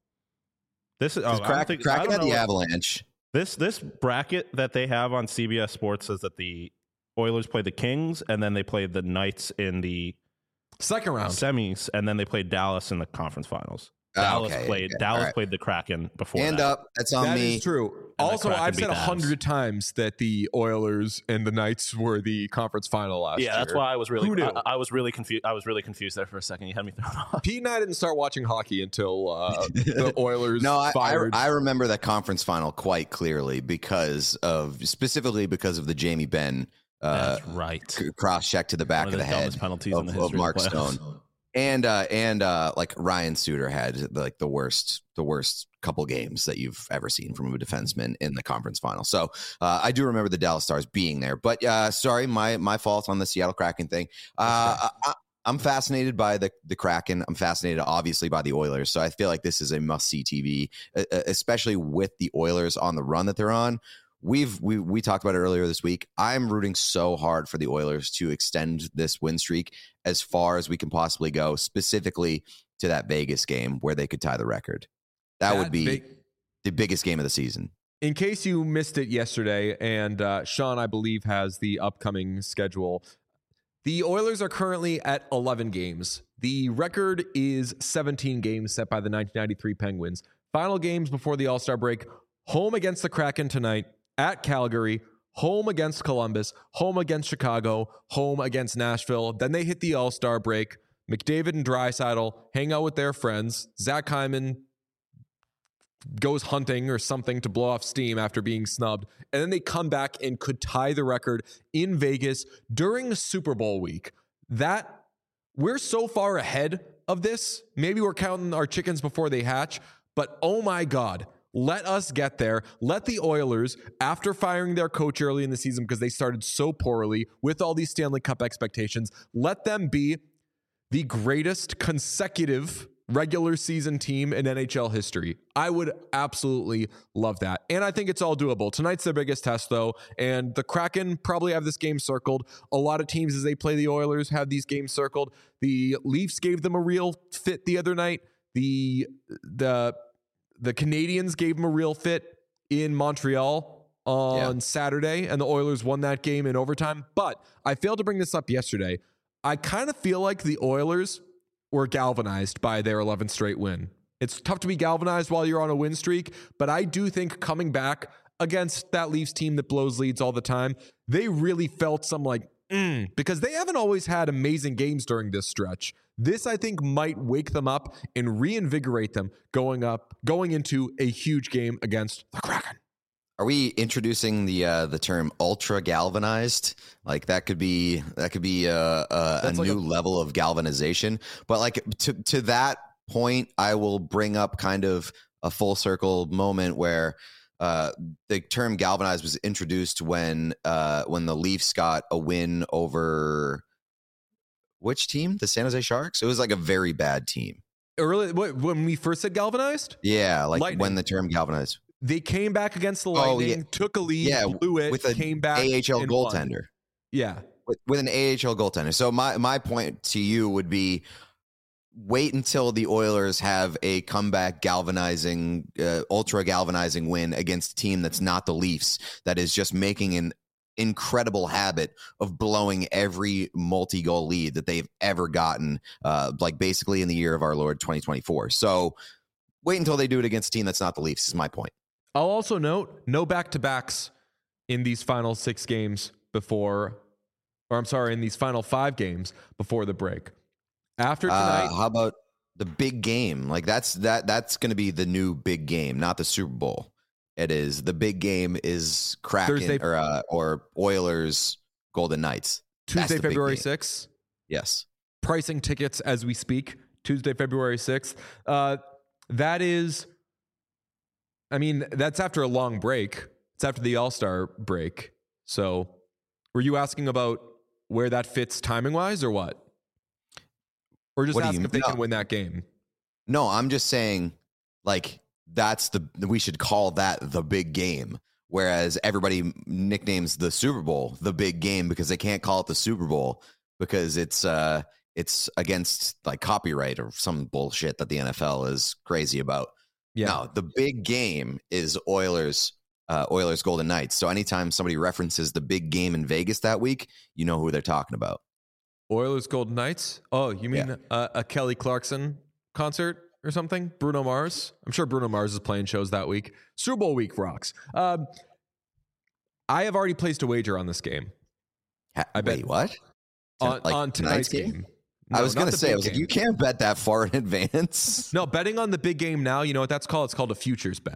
this is, oh, I don't Kraken, think, I Kraken don't had know the what- Avalanche. This this bracket that they have on C B S Sports says that the Oilers played the Kings and then they played the Knights in the Second round. semis and then they played Dallas in the conference finals. Oh, Dallas okay, played okay. Dallas All right. played the Kraken before Hand that. up. That's on That me. is true. And the Also, Kraken I've beat said a the Avs. hundred times that the Oilers and the Knights were the conference final last year. Yeah, that's why I was really Who knew? I, I was really confused. I was really confused there for a second. You had me thrown off. Pete and I didn't start watching hockey until uh, the Oilers No, I, I, fired. I remember that conference final quite clearly because of, specifically because of the Jamie Benn uh, That's right. c- cross check to the back One of of the, the head dumbest penalties of, in the of history of Mark the playoffs. Stone. And uh, and uh, like Ryan Suter had like the worst the worst couple games that you've ever seen from a defenseman in the conference final. So uh, I do remember the Dallas Stars being there. But uh, sorry, my my fault on the Seattle Kraken thing. Uh, I, I'm fascinated by the the Kraken. I'm fascinated, obviously, by the Oilers. So I feel like this is a must see T V, especially with the Oilers on the run that they're on. We've we we talked about it earlier this week. I'm rooting so hard for the Oilers to extend this win streak as far as we can possibly go, specifically to that Vegas game where they could tie the record. That, That would be big- the biggest game of the season. In case you missed it yesterday, and uh, Sean, I believe, has the upcoming schedule. The Oilers are currently at eleven games. The record is seventeen games set by the nineteen ninety-three Penguins. Final games before the All-Star break: home against the Kraken tonight, at Calgary, home against Columbus, home against Chicago, home against Nashville. Then they hit the All-Star break. McDavid and Draisaitl hang out with their friends. Zach Hyman goes hunting or something to blow off steam after being snubbed. And then they come back and could tie the record in Vegas during Super Bowl week. That we're so far ahead of this. Maybe we're counting our chickens before they hatch, but oh my God, let us get there. Let the Oilers, after firing their coach early in the season because they started so poorly with all these Stanley Cup expectations, let them be the greatest consecutive regular season team in N H L history. I would absolutely love that. And I think it's all doable. Tonight's their biggest test, though, and the Kraken probably have this game circled. A lot of teams, as they play the Oilers, have these games circled. The Leafs gave them a real fit the other night. The the the Canadians gave them a real fit in Montreal on yeah. Saturday, and the Oilers won that game in overtime. But I failed to bring this up yesterday. I kind of feel like the Oilers were galvanized by their eleventh straight win. It's tough to be galvanized while you're on a win streak, but I do think coming back against that Leafs team that blows leads all the time, they really felt some like, mm, because they haven't always had amazing games during this stretch. This, I think, might wake them up and reinvigorate them going up, going into a huge game against the Kraken. Are we introducing the uh, the term ultra galvanized? Like that could be that could be a, a, a like new a- level of galvanization. But like to to that point, I will bring up kind of a full circle moment where uh, the term galvanized was introduced when uh, when the Leafs got a win over which team? The San Jose Sharks. It was like a very bad team. Early what, when we first said galvanized, Yeah, like Lightning. when the term galvanized. they came back against the Oh, Lightning, yeah. took a lead, Yeah, blew it, with a came back, A H L and won. goaltender. Yeah, With, with an A H L goaltender. So my my point to you would be wait until the Oilers have a comeback galvanizing, uh, ultra galvanizing win against a team that's not the Leafs, that is just making an incredible habit of blowing every multi-goal lead that they've ever gotten, uh, like basically in the year of our Lord twenty twenty-four. So wait until they do it against a team that's not the Leafs is my point. I'll also note no back-to-backs in these final six games before, or I'm sorry, in these final five games before the break. After tonight, Uh, how about the big game? Like that's that that's going to be the new big game, not the Super Bowl. It is the big game is Kraken Thursday- or uh, or Oilers Golden Knights. That's Tuesday, the big February game. sixth. Yes. Pricing tickets as we speak. Tuesday, February sixth. Uh, that is, I mean, that's after a long break. It's after the All-Star break. So were you asking about where that fits timing-wise or what? Or just What do asking you- if they no. can win that game? No, I'm just saying like that's the we should call that the big game. Whereas everybody nicknames the Super Bowl the big game because they can't call it the Super Bowl because it's uh it's against like copyright or some bullshit that the N F L is crazy about. Yeah. No, the big game is Oilers, uh, Oilers Golden Knights. So anytime somebody references the big game in Vegas that week, you know who they're talking about. Oilers Golden Knights? Oh, you mean Yeah. a, a Kelly Clarkson concert or something? Bruno Mars? I'm sure Bruno Mars is playing shows that week. Super Bowl week rocks. Um, I have already placed a wager on this game. Ha- I bet- Wait, what? On, Like on tonight's tonight's game. I No, was not going to the say, I big was like, game. you can't bet that far in advance. No, betting on the big game now, you know what that's called? It's called a futures bet.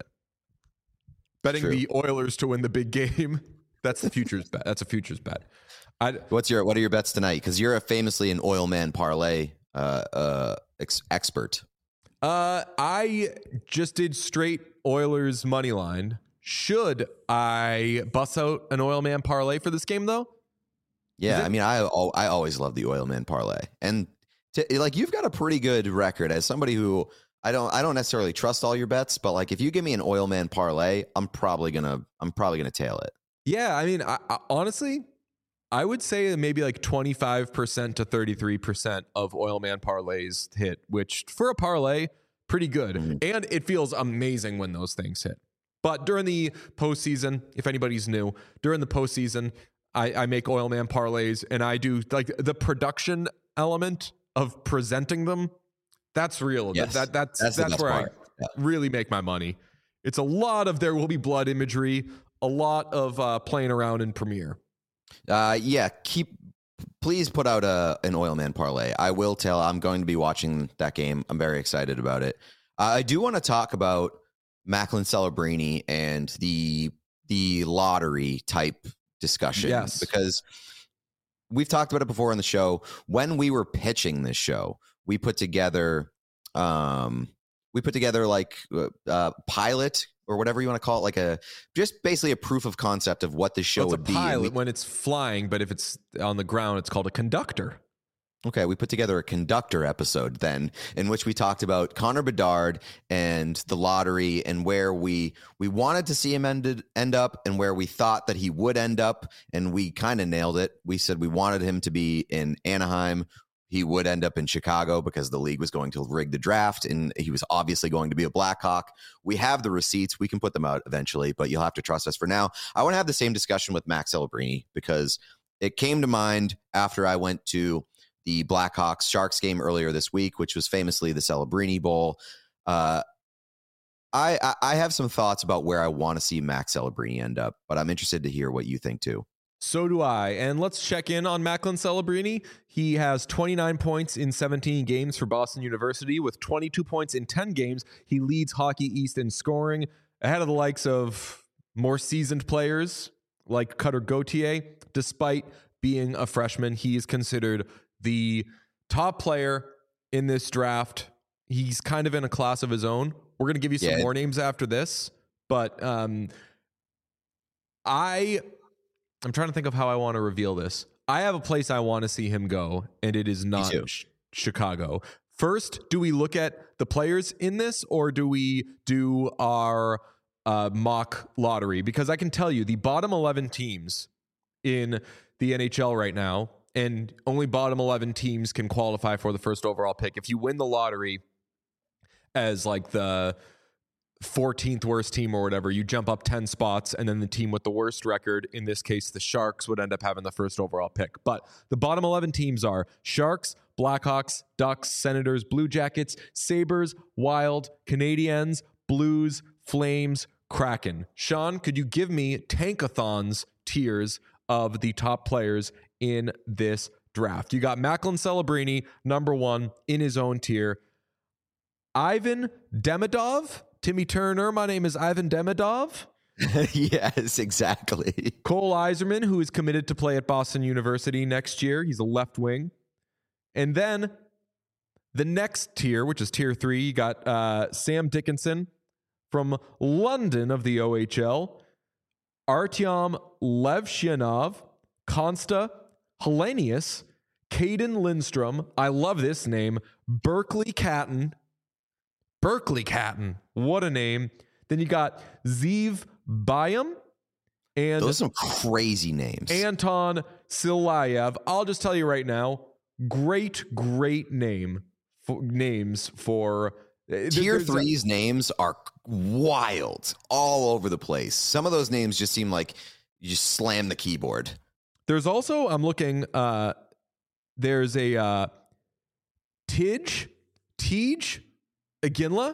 Betting True. the Oilers to win the big game. That's the futures bet. That's a futures bet. I, What's your What are your bets tonight? Because you're a famously an oil man parlay uh, uh, ex- expert. uh, I just did straight Oilers money line. Should I bust out an oil man parlay for this game, though? Yeah, Is it- I mean, I al- I always love the oil man parlay, and to, like you've got a pretty good record as somebody who I don't I don't necessarily trust all your bets, but like if you give me an oil man parlay, I'm probably gonna I'm probably gonna tail it. Yeah, I mean, I, I, honestly, I would say maybe like twenty-five percent to thirty-three percent of oil man parlays hit, which for a parlay, pretty good. Mhm. And it feels amazing when those things hit. But during the postseason, if anybody's new, during the postseason, I, I make oil man parlays and I do like the production element of presenting them. That's real. Yes, that, that's that's that's, the best where part. I Yeah. really make my money. It's a lot of there will be blood imagery, a lot of uh, playing around in Premiere. Uh, yeah, keep please put out a an oil man parlay. I will tell. I'm going to be watching that game. I'm very excited about it. Uh, I do want to talk about Macklin Celebrini and the the lottery type discussion. Yes. Because we've talked about it before on the show. When we were pitching this show, we put together um we put together like a uh, pilot or whatever you want to call it, like a just basically a proof of concept of what the show Well, it's a would be. And pilot we- when it's flying, but if it's on the ground, it's called a conductor. Okay, we put together a conductor episode then, in which we talked about Connor Bedard and the lottery and where we we wanted to see him ended, end up and where we thought that he would end up, and we kind of nailed it. We said we wanted him to be in Anaheim. He would end up in Chicago because the league was going to rig the draft, and he was obviously going to be a Blackhawk. We have the receipts. We can put them out eventually, but you'll have to trust us for now. I want to have the same discussion with Max Celebrini because it came to mind after I went to the Blackhawks Sharks game earlier this week, which was famously the Celebrini Bowl. Uh, I, I I have some thoughts about where I want to see Max Celebrini end up, but I'm interested to hear what you think too. So do I. And let's check in on Macklin Celebrini. He has twenty-nine points in seventeen games for Boston University with twenty-two points in ten games. He leads Hockey East in scoring ahead of the likes of more seasoned players like Cutter Gauthier. Despite being a freshman, he is considered the top player in this draft. He's kind of in a class of his own. We're going to give you some yeah. more names after this, but um, I... I'm trying to think of how I want to reveal this. I have a place I want to see him go, and it is not sh- Chicago. First, do we look at the players in this, or do we do our uh, mock lottery? Because I can tell you the bottom eleven teams in the N H L right now, and only bottom eleven teams can qualify for the first overall pick. If you win the lottery as like the fourteenth worst team or whatever, you jump up ten spots, and then the team with the worst record, in this case the Sharks, would end up having the first overall pick. But the bottom eleven teams are Sharks, Blackhawks, Ducks, Senators, Blue Jackets, Sabres, Wild, Canadiens, Blues, Flames, Kraken. Sean, could you give me Tankathon's tiers of the top players in this draft? You got Macklin Celebrini, number one in his own tier. Ivan Demidov, Timmy Turner, my name is Ivan Demidov. Yes, exactly. Cole Yzerman, who is committed to play at Boston University next year. He's a left wing. And then the next tier, which is tier three, you got uh, Sam Dickinson from London of the O H L, Artyom Levshinov, Konsta Helenius, Caden Lindstrom. I love this name. Berkeley Catton. Berkeley Catton. What a name. Then you got Zeev Bayam and those are some crazy names. Anton Silayev. I'll just tell you right now, great, great name for, names for tier three's a, names are wild all over the place. Some of those names just seem like you just slam the keyboard. There's also, I'm looking, uh, there's a uh, Tidge, Tidge Iginla,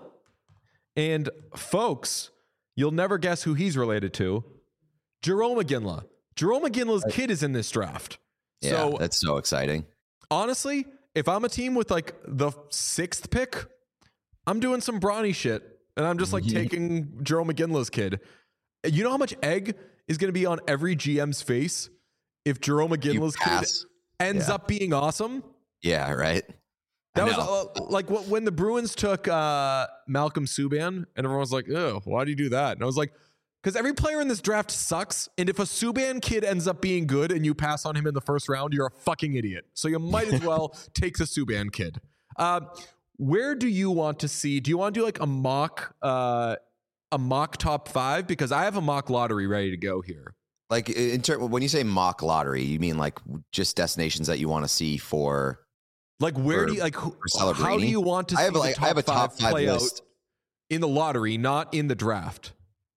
and folks, you'll never guess who he's related to. Jerome Iginla. Jerome Iginla's kid is in this draft. Yeah, so that's so exciting. Honestly, if I'm a team with like the sixth pick, I'm doing some brawny shit, and I'm just like mm-hmm. taking Jerome Iginla's kid. You know how much egg is going to be on every G M's face if Jerome Iginla's kid ends yeah. up being awesome? Yeah, right. That was uh, like what, when the Bruins took uh, Malcolm Subban, and everyone was like, "Oh, why do you do that?" And I was like, "Because every player in this draft sucks, and if a Subban kid ends up being good and you pass on him in the first round, you're a fucking idiot. So you might as well take the Subban kid." Uh, where do you want to see? Do you want to do like a mock, uh, a mock top five? Because I have a mock lottery ready to go here. Like in terms, when you say mock lottery, you mean like just destinations that you want to see for. Like where for, do you like? Who, how do you want to see I have, the like, top I have a five, top five play list. out in the lottery, not in the draft?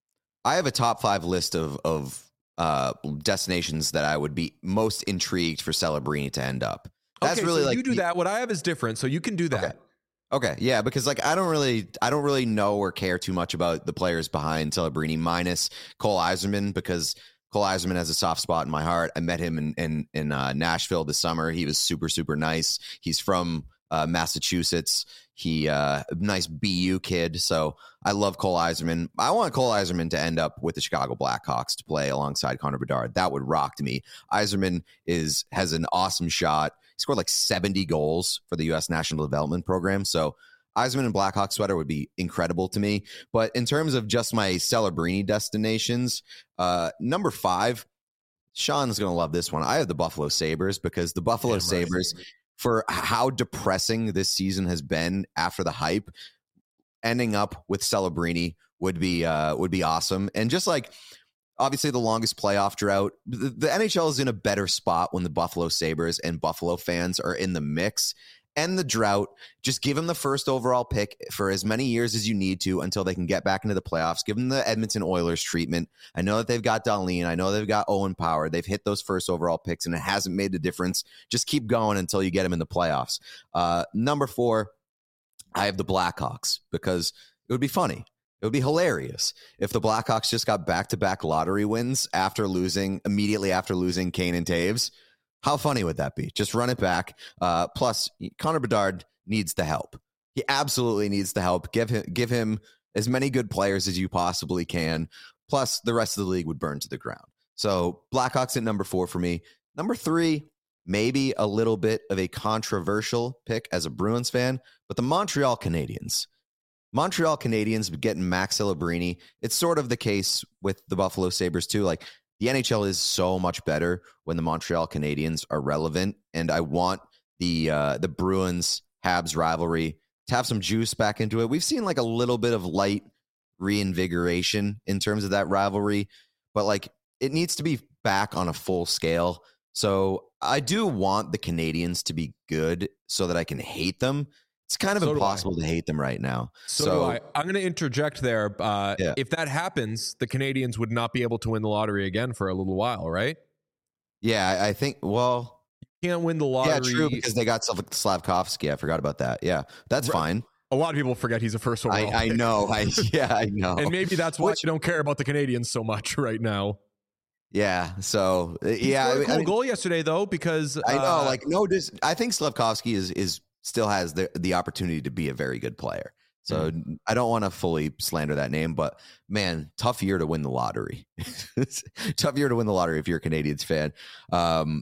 I have a top five list of of uh, destinations that I would be most intrigued for Celebrini to end up. That's okay, really so like you do the, that. What I have is different, so you can do that. Okay. Okay, yeah, because like I don't really, I don't really know or care too much about the players behind Celebrini, minus Cole Yzerman, because Cole Yzerman has a soft spot in my heart. I met him in in, in uh, Nashville this summer. He was super super nice. He's from uh, Massachusetts. He uh, nice B U kid. So I love Cole Yzerman. I want Cole Yzerman to end up with the Chicago Blackhawks to play alongside Connor Bedard. That would rock to me. Yzerman is has an awesome shot. He scored like seventy goals for the U S National Development Program. So Yzerman and Blackhawk sweater would be incredible to me. But in terms of just my Celebrini destinations, uh, number five, Sean's going to love this one. I have the Buffalo Sabres, because the Buffalo Damn Sabres, right. for how depressing this season has been after the hype, ending up with Celebrini would be uh, would be awesome. And just like, obviously the longest playoff drought, the, the N H L is in a better spot when the Buffalo Sabres and Buffalo fans are in the mix. And the drought, just give them the first overall pick for as many years as you need to until they can get back into the playoffs. Give them the Edmonton Oilers treatment. I know that they've got Dahlin. I know they've got Owen Power. They've hit those first overall picks, and it hasn't made a difference. Just keep going until you get them in the playoffs. Uh, number four, I have the Blackhawks, because it would be funny. It would be hilarious if the Blackhawks just got back-to-back lottery wins after losing, immediately after losing Kane and Taves. How funny would that be? Just run it back. Uh, plus, Connor Bedard needs the help. He absolutely needs the help. Give him, give him as many good players as you possibly can. Plus, the rest of the league would burn to the ground. So, Blackhawks at number four for me. Number three, maybe a little bit of a controversial pick as a Bruins fan, but the Montreal Canadiens. Montreal Canadiens getting Max Celebrini. It's sort of the case with the Buffalo Sabres too. Like, the N H L is so much better when the Montreal Canadiens are relevant, and I want the uh, the Bruins Habs rivalry to have some juice back into it. We've seen like a little bit of light reinvigoration in terms of that rivalry, but like it needs to be back on a full scale. So I do want the Canadiens to be good so that I can hate them. It's kind of so impossible to hate them right now. So, so do I. I'm going to interject there. Uh, yeah. If that happens, the Canadiens would not be able to win the lottery again for a little while, right? Yeah, I think, well... You can't win the lottery. Yeah, true, because they got Slavkovsky. I forgot about that. Yeah, that's right. Fine. A lot of people forget he's a first overall I, I know. I, yeah, I know. And maybe that's why Which, you don't care about the Canadiens so much right now. Yeah, so... He yeah, scored a cool I mean, goal yesterday, though, because... I know, uh, like, no, just, I think Slavkovsky is... is still has the, the opportunity to be a very good player. So mm-hmm. I don't want to fully slander that name, but man, tough year to win the lottery. Tough year to win the lottery if you're a Canadiens fan. Um,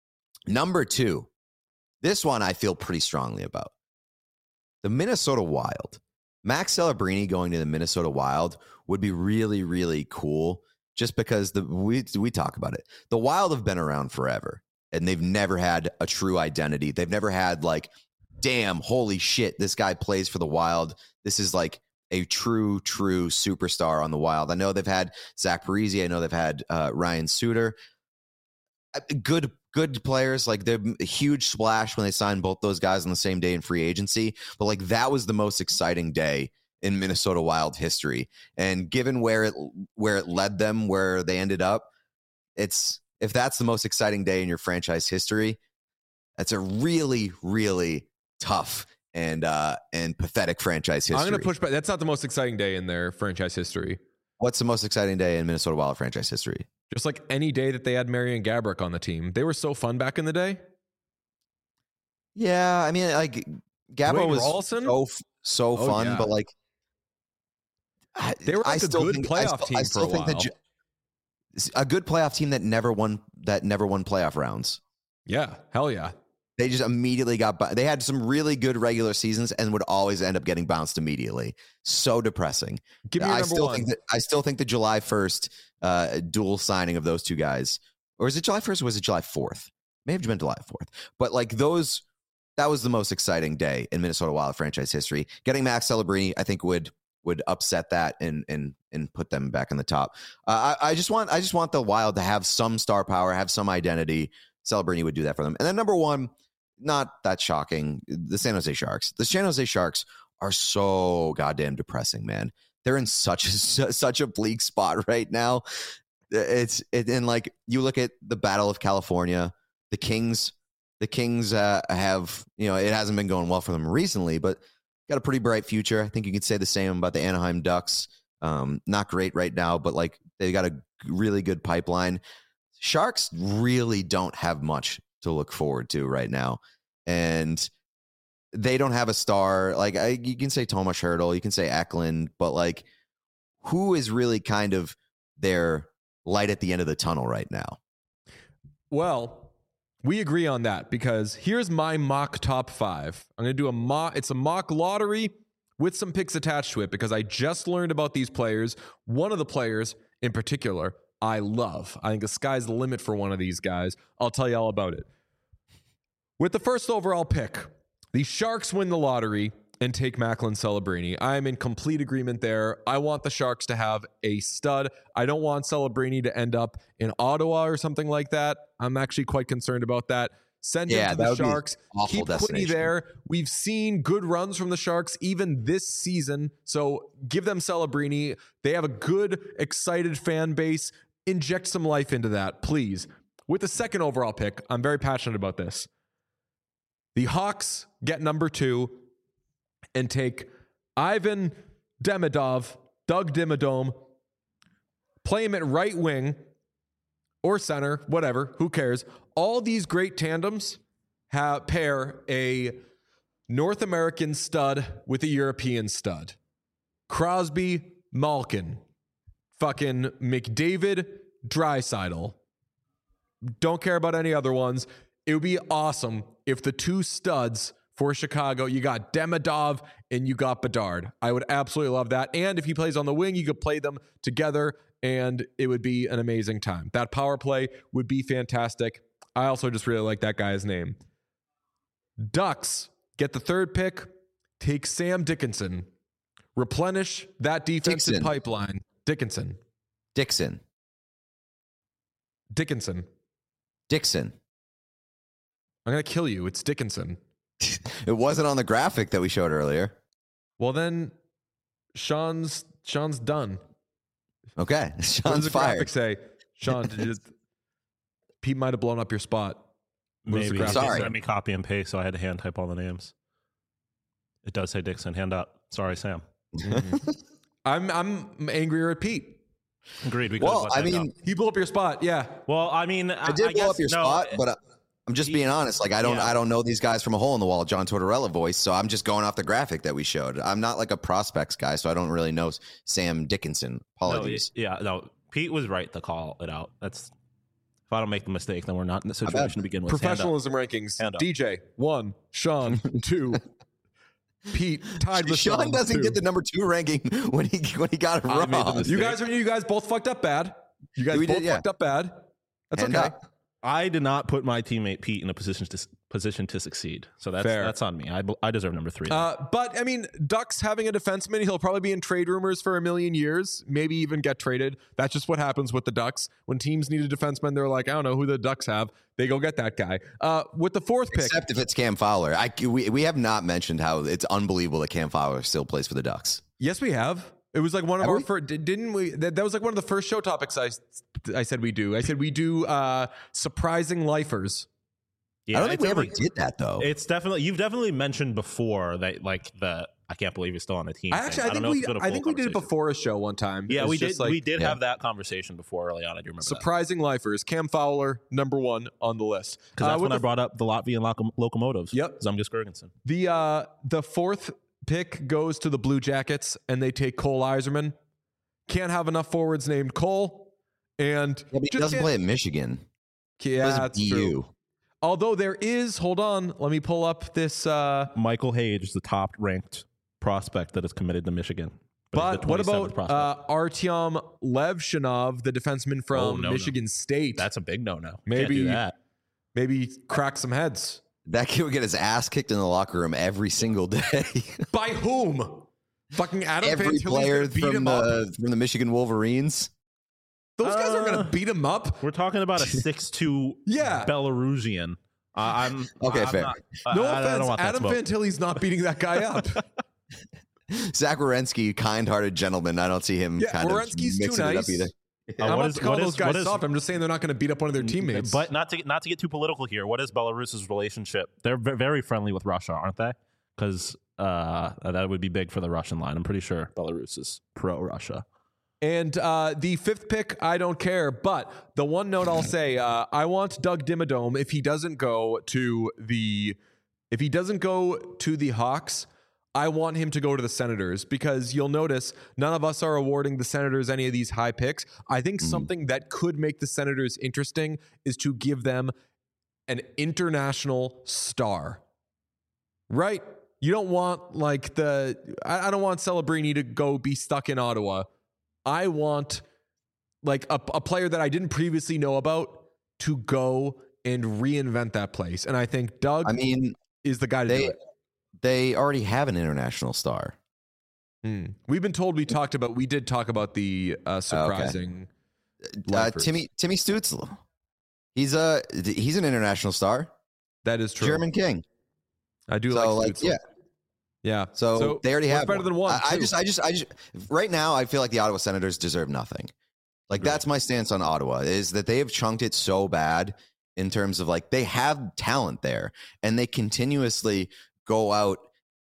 number two, this one I feel pretty strongly about. The Minnesota Wild. Max Celebrini going to the Minnesota Wild would be really, really cool just because the we we talk about it. The Wild have been around forever and they've never had a true identity. They've never had like, damn, holy shit, this guy plays for the Wild. This is like a true, true superstar on the Wild. I know they've had Zach Parise. I know they've had uh, Ryan Suter. Good, good players. Like, they're a huge splash when they signed both those guys on the same day in free agency. But like, that was the most exciting day in Minnesota Wild history. And given where it where it led them, where they ended up, it's if that's the most exciting day in your franchise history, that's a really, really tough and uh, and pathetic franchise history. I'm going to push back. That's not the most exciting day in their franchise history. What's the most exciting day in Minnesota Wild franchise history? Just like any day that they had Marian Gaborik on the team. They were so fun back in the day. Yeah, I mean, like, Gabo was Rawlson? so so oh, fun, yeah. but like, they were like I a still good think, playoff I still, team I still for a think while. That a good playoff team that never won that never won playoff rounds. Yeah, hell yeah. They just immediately got, they had some really good regular seasons and would always end up getting bounced immediately. So depressing. Give me your I number still one. think that, I still think the July first uh, dual signing of those two guys, or is it July first or was it July fourth? May have been July fourth. But like those, that was the most exciting day in Minnesota Wild franchise history. Getting Max Celebrini, I think would, would upset that and, and, and put them back in the top. Uh, I, I just want, I just want the Wild to have some star power, have some identity. Celebrini would do that for them. And then number one, not that shocking, the San Jose Sharks. The San Jose Sharks are so goddamn depressing, man. They're in such a, such a bleak spot right now. It's it, and like you look at the Battle of California, the Kings, the Kings uh, have, you know, it hasn't been going well for them recently, but got a pretty bright future. I think you could say the same about the Anaheim Ducks. Um, not great right now, but like they got a really good pipeline. Sharks really don't have much to look forward to right now. And they don't have a star. Like I, you can say Tomas Hertl, you can say Eklund, but like who is really kind of their light at the end of the tunnel right now? Well, we agree on that because here's my mock top five. I'm going to do a mock. It's a mock lottery with some picks attached to it because I just learned about these players. One of the players in particular, I love. I think the sky's the limit for one of these guys. I'll tell you all about it. With the first overall pick, the Sharks win the lottery and take Macklin Celebrini. I'm in complete agreement there. I want the Sharks to have a stud. I don't want Celebrini to end up in Ottawa or something like that. I'm actually quite concerned about that. Send Yeah, him to that the would be Sharks. an awful Keep Quinny destination. there. We've seen good runs from the Sharks even this season. So give them Celebrini. They have a good, excited fan base. Inject some life into that, please. With the second overall pick, I'm very passionate about this. The Hawks get number two and take Ivan Demidov Doug Dimmadome, play him at right wing or center, whatever, who cares? All these great tandems have, pair a North American stud with a European stud. Crosby, Malkin, fucking McDavid, Draisaitl. Don't care about any other ones. It would be awesome if the two studs for Chicago, you got Demidov and you got Bedard. I would absolutely love that. And if he plays on the wing, you could play them together and it would be an amazing time. That power play would be fantastic. I also just really like that guy's name. Ducks get the third pick, take Sam Dickinson, replenish that defensive Dixon. pipeline. Dickinson. Dixon. Dickinson. Dixon. I'm going to kill you. It's Dickinson. It wasn't on the graphic that we showed earlier. Well, then Sean's Sean's done. Okay. What does Sean's the fired. graphic say? Sean, did you, Pete might have blown up your spot. What does the Maybe. graphic Sorry. say? Let me copy and paste, so I had to hand type all the names. It does say Dixon. Hand up. Sorry, Sam. I'm I'm angrier at Pete. Agreed. We could've Well, let I that mean, go. He blew up your spot. Yeah. well, I mean, I did blow guess, up your no, spot, but uh, I'm just being honest. Like I don't, Yeah. I don't know these guys from a hole in the wall, John Tortorella voice. So I'm just going off the graphic that we showed. I'm not like a prospects guy, so I don't really know Sam Dickinson. no, Apologies. yeah, no. Pete was right to call it out. That's if I don't make the mistake, then we're not in the situation to begin with. Hand up. Professionalism rankings. Hand up. D J one, Sean two, Pete tied with Sean Sean doesn't two. get the number two ranking when he when he got it I wrong. made the mistake. You guys are you guys both fucked up bad. You guys We both did, yeah. fucked up bad. That's Hand okay. up. I did not put my teammate Pete in a position to position to succeed. So that's Fair. that's on me. I, I deserve number three. Uh, but I mean, Ducks having a defenseman, he'll probably be in trade rumors for a million years, maybe even get traded. That's just what happens with the Ducks. When teams need a defenseman, they're like, I don't know who the Ducks have. They go get that guy. Uh, with the fourth pick, Except if it's Cam Fowler. I, we, we have not mentioned how it's unbelievable that Cam Fowler still plays for the Ducks. yes, we have. It was like one of Have our we? first, didn't we? That, that was like one of the first show topics I, I said we do. I said we do uh, surprising lifers. yeah, I don't think it's we ever only- did that though. It's definitely you've definitely mentioned before that like the I can't believe you're still on the team. I thing. actually, I don't think know if we, it's been a I full think we did it conversation. before a show one time. Yeah, It was we did. just like we did yeah. have that conversation before early on. I do remember that. surprising lifers. Cam Fowler, number one on the list. Because Uh, that's with when I the- brought up the Latvian loco- locomotives. Yep. Zemgus Girgensson. The uh, the fourth pick goes to the Blue Jackets, and they take Cole Iserman. Can't have enough forwards named Cole, and Yeah, but he just doesn't can't- play at Michigan. He Yeah, plays at that's B U. true. Although there is, hold on, let me pull up this. Uh, Michael Hage is the top ranked prospect that is committed to Michigan. he's but the what twenty-seventh about prospect. uh, Artyom Levshinov, the defenseman from Oh, no, no. Michigan State? That's a big no no. maybe- do that. Maybe crack some heads. That kid would get his ass kicked in the locker room every single day. By whom? Fucking Adam Every Fantilli's player gonna beat from him up. the from the Michigan Wolverines. Those guys aren't Uh, gonna beat him up. We're talking about a six two Yeah. Belarusian. Uh, I'm Okay, I'm fair. Not, No I, I offense, don't want that Adam smoke. Fantilli's not beating that guy up. Zach Werenski, kind-hearted gentleman. I don't see him Yeah, kind Werenski's of too mixing it up nice. either. Uh, I'm what not is- to call what those is- guys what is- soft. I'm just saying they're not going to beat up one of their teammates. But not to get, not to get too political here. What is Belarus's relationship? They're ve- very friendly with Russia, aren't they? Because uh, that would be big for the Russian line. I'm pretty sure Belarus is pro-Russia. And uh, the fifth pick, I don't care. But the one note I'll say, uh, I want Doug Dimmadome if he doesn't go to the if he doesn't go to the Hawks. I want him to go to the Senators because you'll notice none of us are awarding the Senators any of these high picks. I think Mm. something that could make the Senators interesting is to give them an international star, right? You don't want like the, I, I don't want Celebrini to go be stuck in Ottawa. I want like a, a player that I didn't previously know about to go and reinvent that place. And I think Doug I mean, is the guy to they do it. they already have an international star. Hmm. We've been told we talked about, we did talk about the uh, surprising. Uh, lifers. Timmy Timmy Stützle. He's a he's an international star. That is true. German king. I do So like, like Stützle. yeah. Yeah. So, they already what's have better than one. I, I too? just I just I just right now I feel like the Ottawa Senators deserve nothing. Like Agreed. that's my stance on Ottawa is that they have chunked it so bad in terms of like they have talent there and they continuously go out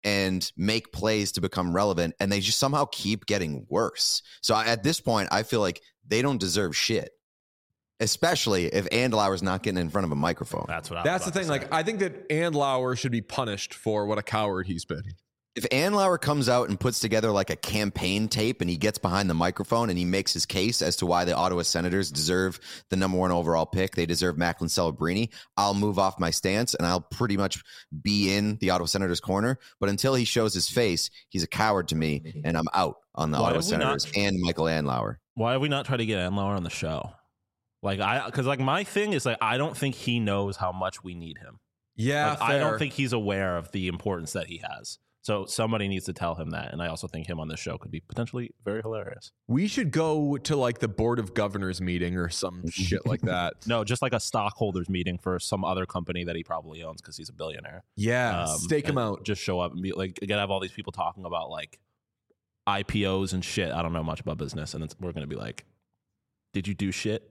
and make plays to become relevant, and they just somehow keep getting worse. So I, at this point, I feel like they don't deserve shit, especially if Andlauer's not getting in front of a microphone. That's what I That's was the about thing. to say. Like, I think that Andlauer should be punished for what a coward he's been. If Andlauer comes out and puts together like a campaign tape and he gets behind the microphone and he makes his case as to why the Ottawa Senators deserve the number one overall pick, they deserve Macklin Celebrini, I'll move off my stance and I'll pretty much be in the Ottawa Senators corner. But until he shows his face, he's a coward to me, and I'm out on the Why Ottawa have we not- Senators and Michael Andlauer. Why have we not tried to get Andlauer on the show? Like I, because like my thing is like I don't think he knows how much we need him. Yeah, Like, I don't think he's aware of the importance that he has. So somebody needs to tell him that. And I also think him on this show could be potentially very hilarious. we should go to like the Board of Governors meeting or some shit like that. No, just like a stockholders meeting for some other company that he probably owns because he's a billionaire. Yeah, Um, stake him and out. Just show up and be like, again, have all these people talking about like I P Os and shit. I don't know much about business. And it's, we're going to be like, did you do shit?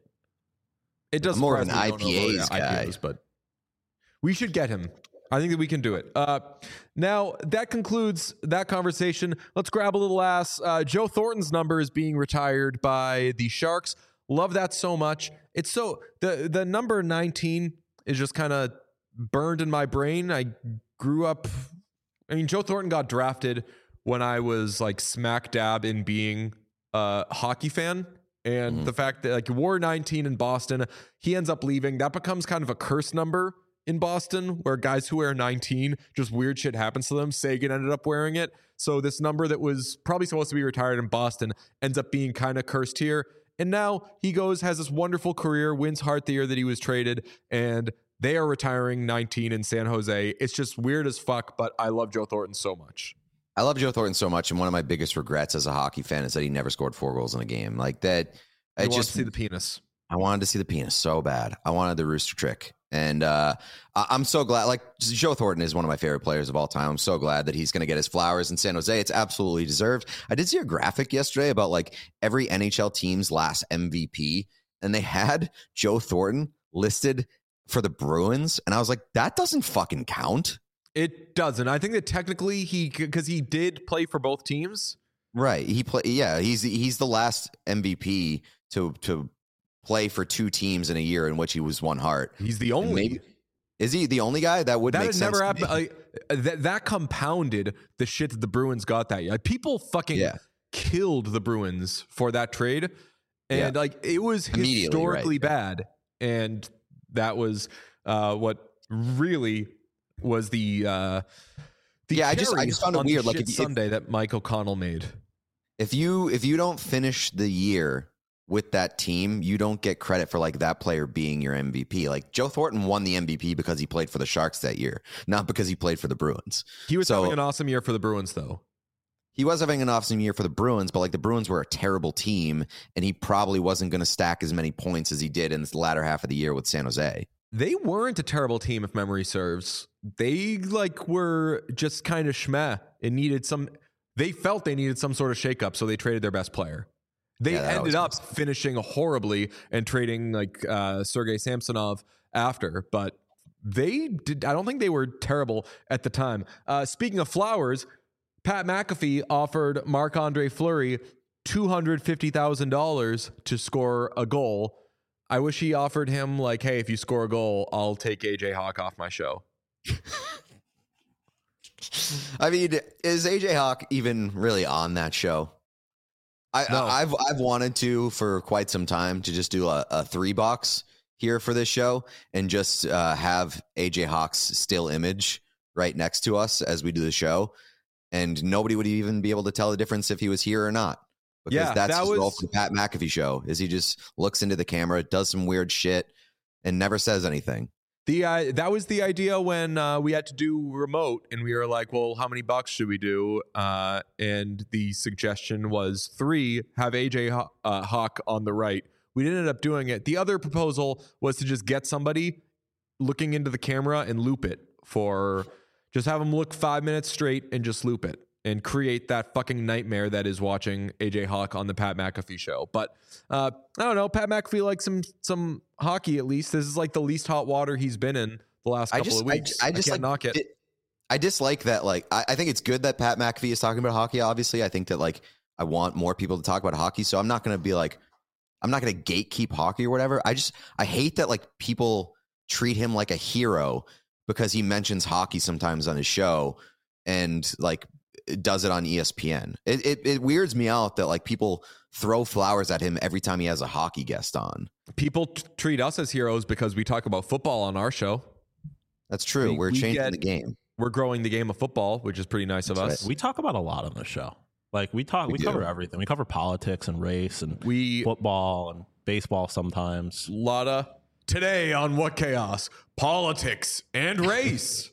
It does I'm more of an surprise me we don't know I P As about guy. I P Os, but we should get him. I think that we can do it. Uh, now, that concludes that conversation. Let's grab a little ass. Uh, Joe Thornton's number is being retired by the Sharks. Love that so much. It's so the the number nineteen is just kind of burned in my brain. I grew up. I mean, Joe Thornton got drafted when I was like smack dab in being a hockey fan. And Mhm. the fact that like wore nineteen in Boston, he ends up leaving. That becomes kind of a curse number in Boston, where guys who wear nineteen, just weird shit happens to them. Sagan ended up wearing it. So this number that was probably supposed to be retired in Boston ends up being kind of cursed here. And now he goes, has this wonderful career, wins Hart the year that he was traded, and they are retiring nineteen in San Jose. It's just weird as fuck, but I love Joe Thornton so much. I love Joe Thornton so much, and one of my biggest regrets as a hockey fan is that he never scored four goals in a game. Like that, I I want just to see the penis. I wanted to see the penis so bad. I wanted the rooster trick. And uh, I- I'm so glad. Like, Joe Thornton is one of my favorite players of all time. I'm so glad that he's going to get his flowers in San Jose. It's absolutely deserved. I did see a graphic yesterday about like every N H L team's last M V P, and they had Joe Thornton listed for the Bruins. And I was like, that doesn't fucking count. It doesn't. I think that technically he, because he did play for both teams. Right. He play. Yeah. He's he's the last M V P to to play for two teams in a year in which he was one Hart. He's the And only. maybe- is he the only guy that would That make had sense? never to happened. me. Like, that that compounded the shit that the Bruins got that year. Like, people fucking Yeah. killed the Bruins for that trade, and Yeah. like it was Immediately, historically right. bad, and that was uh, what really was the uh, the Yeah, I just- I cherry just found it on the weird, like, shit if- if- Sunday that Mike O'Connell made. If you if you don't finish the year with that team, you don't get credit for like that player being your M V P. Like Joe Thornton won the M V P because he played for the Sharks that year, not because he played for the Bruins. He was So- having an awesome year for the Bruins, though. He was having an awesome year for the Bruins, but like the Bruins were a terrible team, and he probably wasn't going to stack as many points as he did in the latter half of the year with San Jose. They weren't a terrible team, if memory serves. They like were just kind of schmeh and needed some. They felt they needed some sort of shakeup, so they traded their best player. They Yeah, that ended always up finishing horribly and trading like uh, Sergei Samsonov after, but they did. I don't think they were terrible at the time. Uh, speaking of flowers, Pat McAfee offered Marc-Andre Fleury two hundred fifty thousand dollars to score a goal. I wish he offered him like, hey, if you score a goal, I'll take A J Hawk off my show. I mean, is A J Hawk even really on that show? I, No. I I've I've wanted to for quite some time to just do a, a three box here for this show and just uh, have A J Hawk's still image right next to us as we do the show, and nobody would even be able to tell the difference if he was here or not. Because Yeah, that's that his role was- for the Pat McAfee show. Is he just looks into the camera, does some weird shit, and never says anything. The uh, that was the idea when uh, we had to do remote, and we were like, "Well, how many bucks should we do?" Uh, and the suggestion was three. Have A J Haw- uh, Hawk on the right. We didn't end up doing it. The other proposal was to just get somebody looking into the camera and loop it for just have them look five minutes straight and just loop it and create that fucking nightmare that is watching A J Hawk on the Pat McAfee show. But uh, I don't know. Pat McAfee likes some some hockey at least. This is like the least hot water he's been in the last I couple just of I, weeks. I just can't like knock it. did, I dislike that. Like, I, I think it's good that Pat McAfee is talking about hockey. Obviously, I think that like I want more people to talk about hockey. So I'm not going to be like, I'm not going to gatekeep hockey or whatever. I just I hate that like people treat him like a hero because he mentions hockey sometimes on his show and like does it on E S P N. It, it it weirds me out that like people throw flowers at him every time he has a hockey guest on. People t- treat us as heroes because we talk about football on our show. That's true. We, We're we changing get, the game. We're growing the game of football, which is pretty nice of That's us. right. We talk about a lot on the show. Like we talk, we, We we cover do. everything. We cover politics and race and We football and baseball sometimes. Lotta today on What Chaos, politics and race.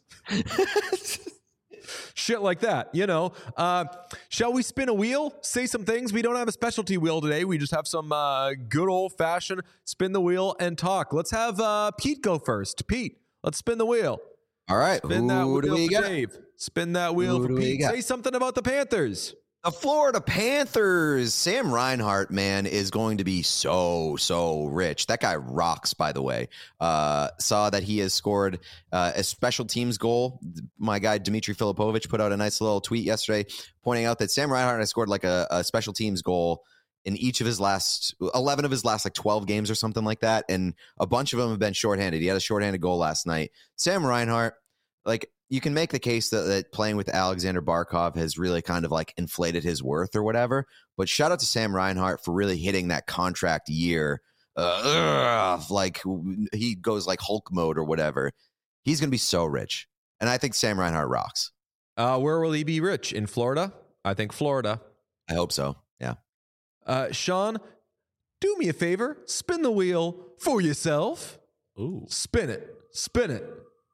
Shit like that, you know. Uh, shall we spin a wheel? Say some things. We don't have a specialty wheel today. We just have some uh, good old fashioned spin the wheel and talk. Let's have uh, Pete go first. Pete, let's spin the wheel. All right. Spin that Who do wheel we for got? Dave. Spin that wheel Who for do we Pete. got? Say something about the Panthers. The Florida Panthers. Sam Reinhart, man, is going to be so, so rich. That guy rocks, by the way. Uh, saw that he has scored uh, a special teams goal. My guy, Dmitry Filipovich, put out a nice little tweet yesterday pointing out that Sam Reinhart has scored like a, a special teams goal in each of his last eleven of his last like twelve games or something like that. And a bunch of them have been shorthanded. He had a shorthanded goal last night. Sam Reinhart, like, you can make the case that, that playing with Alexander Barkov has really kind of like inflated his worth or whatever. But shout out to Sam Reinhart for really hitting that contract year. Uh, ugh, like he goes like Hulk mode or whatever. He's going to be so rich. And I think Sam Reinhart rocks. Uh, where will he be rich? In Florida? I think Florida. I hope so. Yeah. Uh, Sean, do me a favor. Spin the wheel for yourself. Ooh, Spin it. Spin it.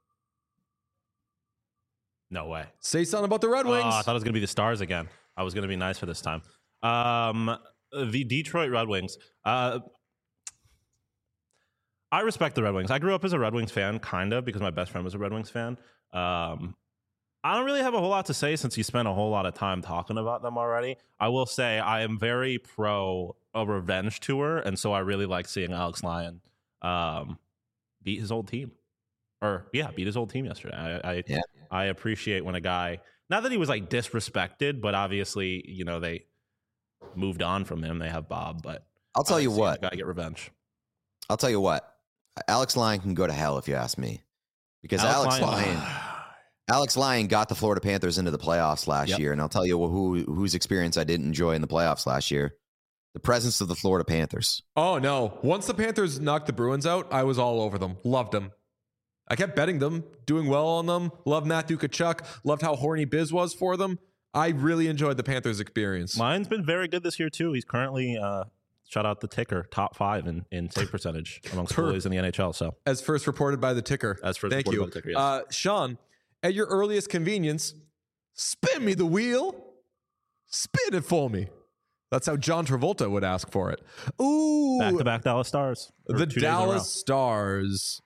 no way. Say something about the Red Oh, Wings. I thought it was going to be the Stars again. I was going to be nice for this time. Um, the Detroit Red Wings. Uh, I respect the Red Wings. I grew up as a Red Wings fan, kind of, because my best friend was a Red Wings fan. Um, I don't really have a whole lot to say since you spent a whole lot of time talking about them already. I will say I am very pro a revenge tour, and so I really like seeing Alex Lyon um, beat his old team. Or, yeah, beat his old team yesterday. I I, Yeah. I appreciate when a guy, not that he was like disrespected, but obviously, you know, they moved on from him. They have Bob, but I'll tell you what. Got to get revenge. I'll tell you what. Alex Lyon can go to hell if you ask me. Because Alex, Alex Lyon, Lyon- Alex Lyon got the Florida Panthers into the playoffs last Yep. year. And I'll tell you who whose experience I didn't enjoy in the playoffs last year. The presence of the Florida Panthers. Oh, no. Once the Panthers knocked the Bruins out, I was all over them. Loved them. I kept betting them, doing well on them. Loved Matthew Tkachuk. Loved how horny Biz was for them. I really enjoyed the Panthers experience. Line's been very good this year, too. He's currently, uh, shout out the ticker, top five in, in save percentage amongst Per- goalies in the N H L. So As first reported by the ticker. As first Thank reported you. by the ticker, yes. uh, Sean, at your earliest convenience, spin me the wheel. Spin it for me. That's how John Travolta would ask for it. Ooh. back to back Dallas Stars. Or The two days in a row. Dallas Stars.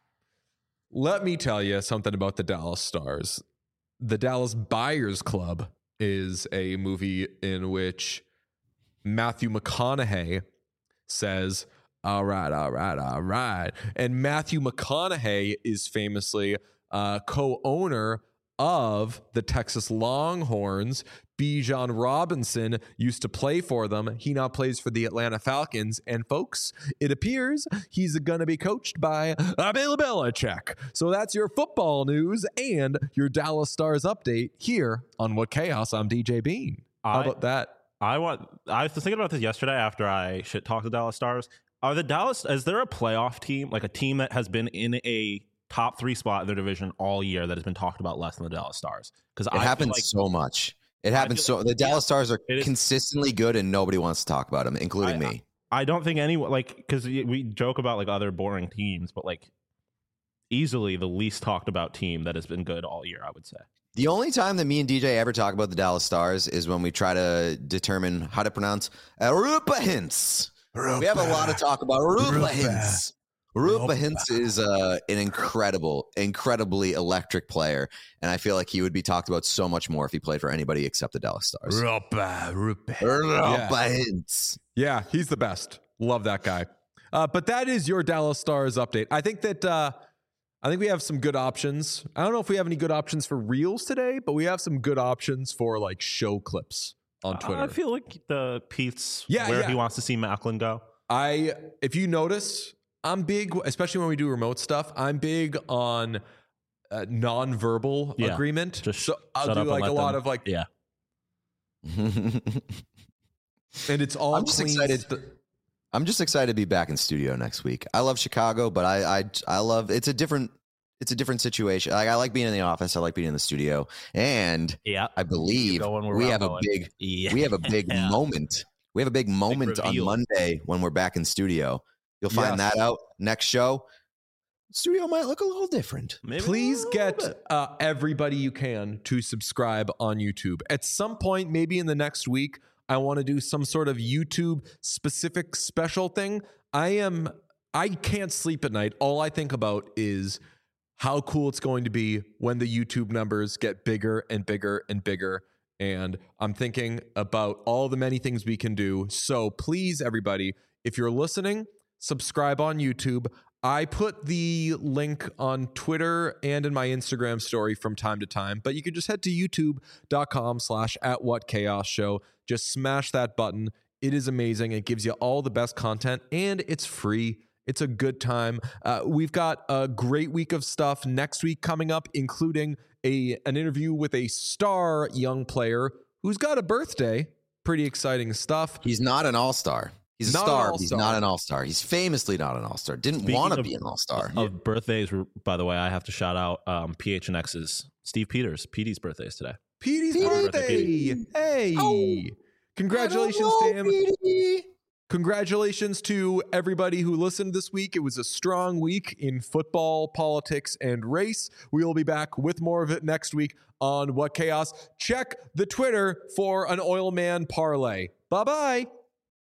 Let me tell you something about the Dallas Stars. The Dallas Buyers Club is a movie in which Matthew McConaughey says, all right, all right, all right. And Matthew McConaughey is famously uh, co-owner of the Texas Longhorns. Bijan Robinson used to play for them. He now plays for the Atlanta Falcons. And folks, it appears he's going to be coached by uh, Bill Belichick. So that's your football news and your Dallas Stars update here on What Chaos. I'm D J Bean. How I- about that? I want. I was thinking about this yesterday after I shit talked the Dallas Stars. Are the Dallas? Is there a playoff team, like a team that has been in a top three spot in their division all year that has been talked about less than the Dallas Stars? Because It I happens feel like so much. It happens feel so. The Dallas Stars are It is- consistently good, and nobody wants to talk about them, including I- me. I don't think anyone like because we joke about like other boring teams, but like easily the least talked about team that has been good all year. I would say. The only time that me and D J ever talk about the Dallas Stars is when we try to determine how to pronounce Rupa Hintz. We have a lot of talk about Rupa Hintz. Rupa Hintz is uh, an incredible, incredibly electric player, and I feel like he would be talked about so much more if he played for anybody except the Dallas Stars. Rupa, Rupa. Rupa Hintz. Yeah, he's the best. Love that guy. Uh, but that is your Dallas Stars update. I think that uh, I think we have some good options. I don't know if we have any good options for reels today, but we have some good options for like show clips on Twitter. I feel like the Pete's Yeah, where yeah. he wants to see Macklin go. I, if you notice, I'm big, especially when we do remote stuff. I'm big on uh, non-verbal Yeah. agreement. Just so I'll shut do up and like let a lot them- of like, Yeah. and it's all I'm just clean excited. st- I'm just excited to be back in studio next week. I love Chicago, but I I I love it's a different it's a different situation. Like I like being in the office. I like being in the studio, and Yeah. I believe going where we I'm have going. a big Yeah. we have a big moment. We have a big moment on reveal. Monday when we're back in studio. You'll find Yes. that out next show. Studio might look a little different. Maybe Please a little get bit. uh, everybody you can to subscribe on YouTube. At some point, maybe in the next week, I want to do some sort of YouTube specific special thing. I am, I can't sleep at night. All I think about is how cool it's going to be when the YouTube numbers get bigger and bigger and bigger. And I'm thinking about all the many things we can do. So please, everybody, if you're listening, subscribe on YouTube. I put the link on Twitter and in my Instagram story from time to time, but you can just head to youtube.com slash at what chaos show. Just smash that button. It is amazing. It gives you all the best content and it's free. It's a good time. Uh, we've got a great week of stuff next week coming up, including a an interview with a star young player who's got a birthday. Pretty exciting stuff. He's not an all-star. He's a Not an star. He's all-star. not an all-star. He's famously not an all-star. Didn't Speaking want to of- be an all-star. Of birthdays, by the way, I have to shout out um, P H N X's Steve Peters. P D's birthday is today. Petey's Petey. birthday. Hey. Oh. Congratulations I to don't him. know, Petey. Congratulations to everybody who listened this week. It was a strong week in football, politics, and race. We will be back with more of it next week on What Chaos. Check the Twitter for an Oil Man parlay. Bye-bye.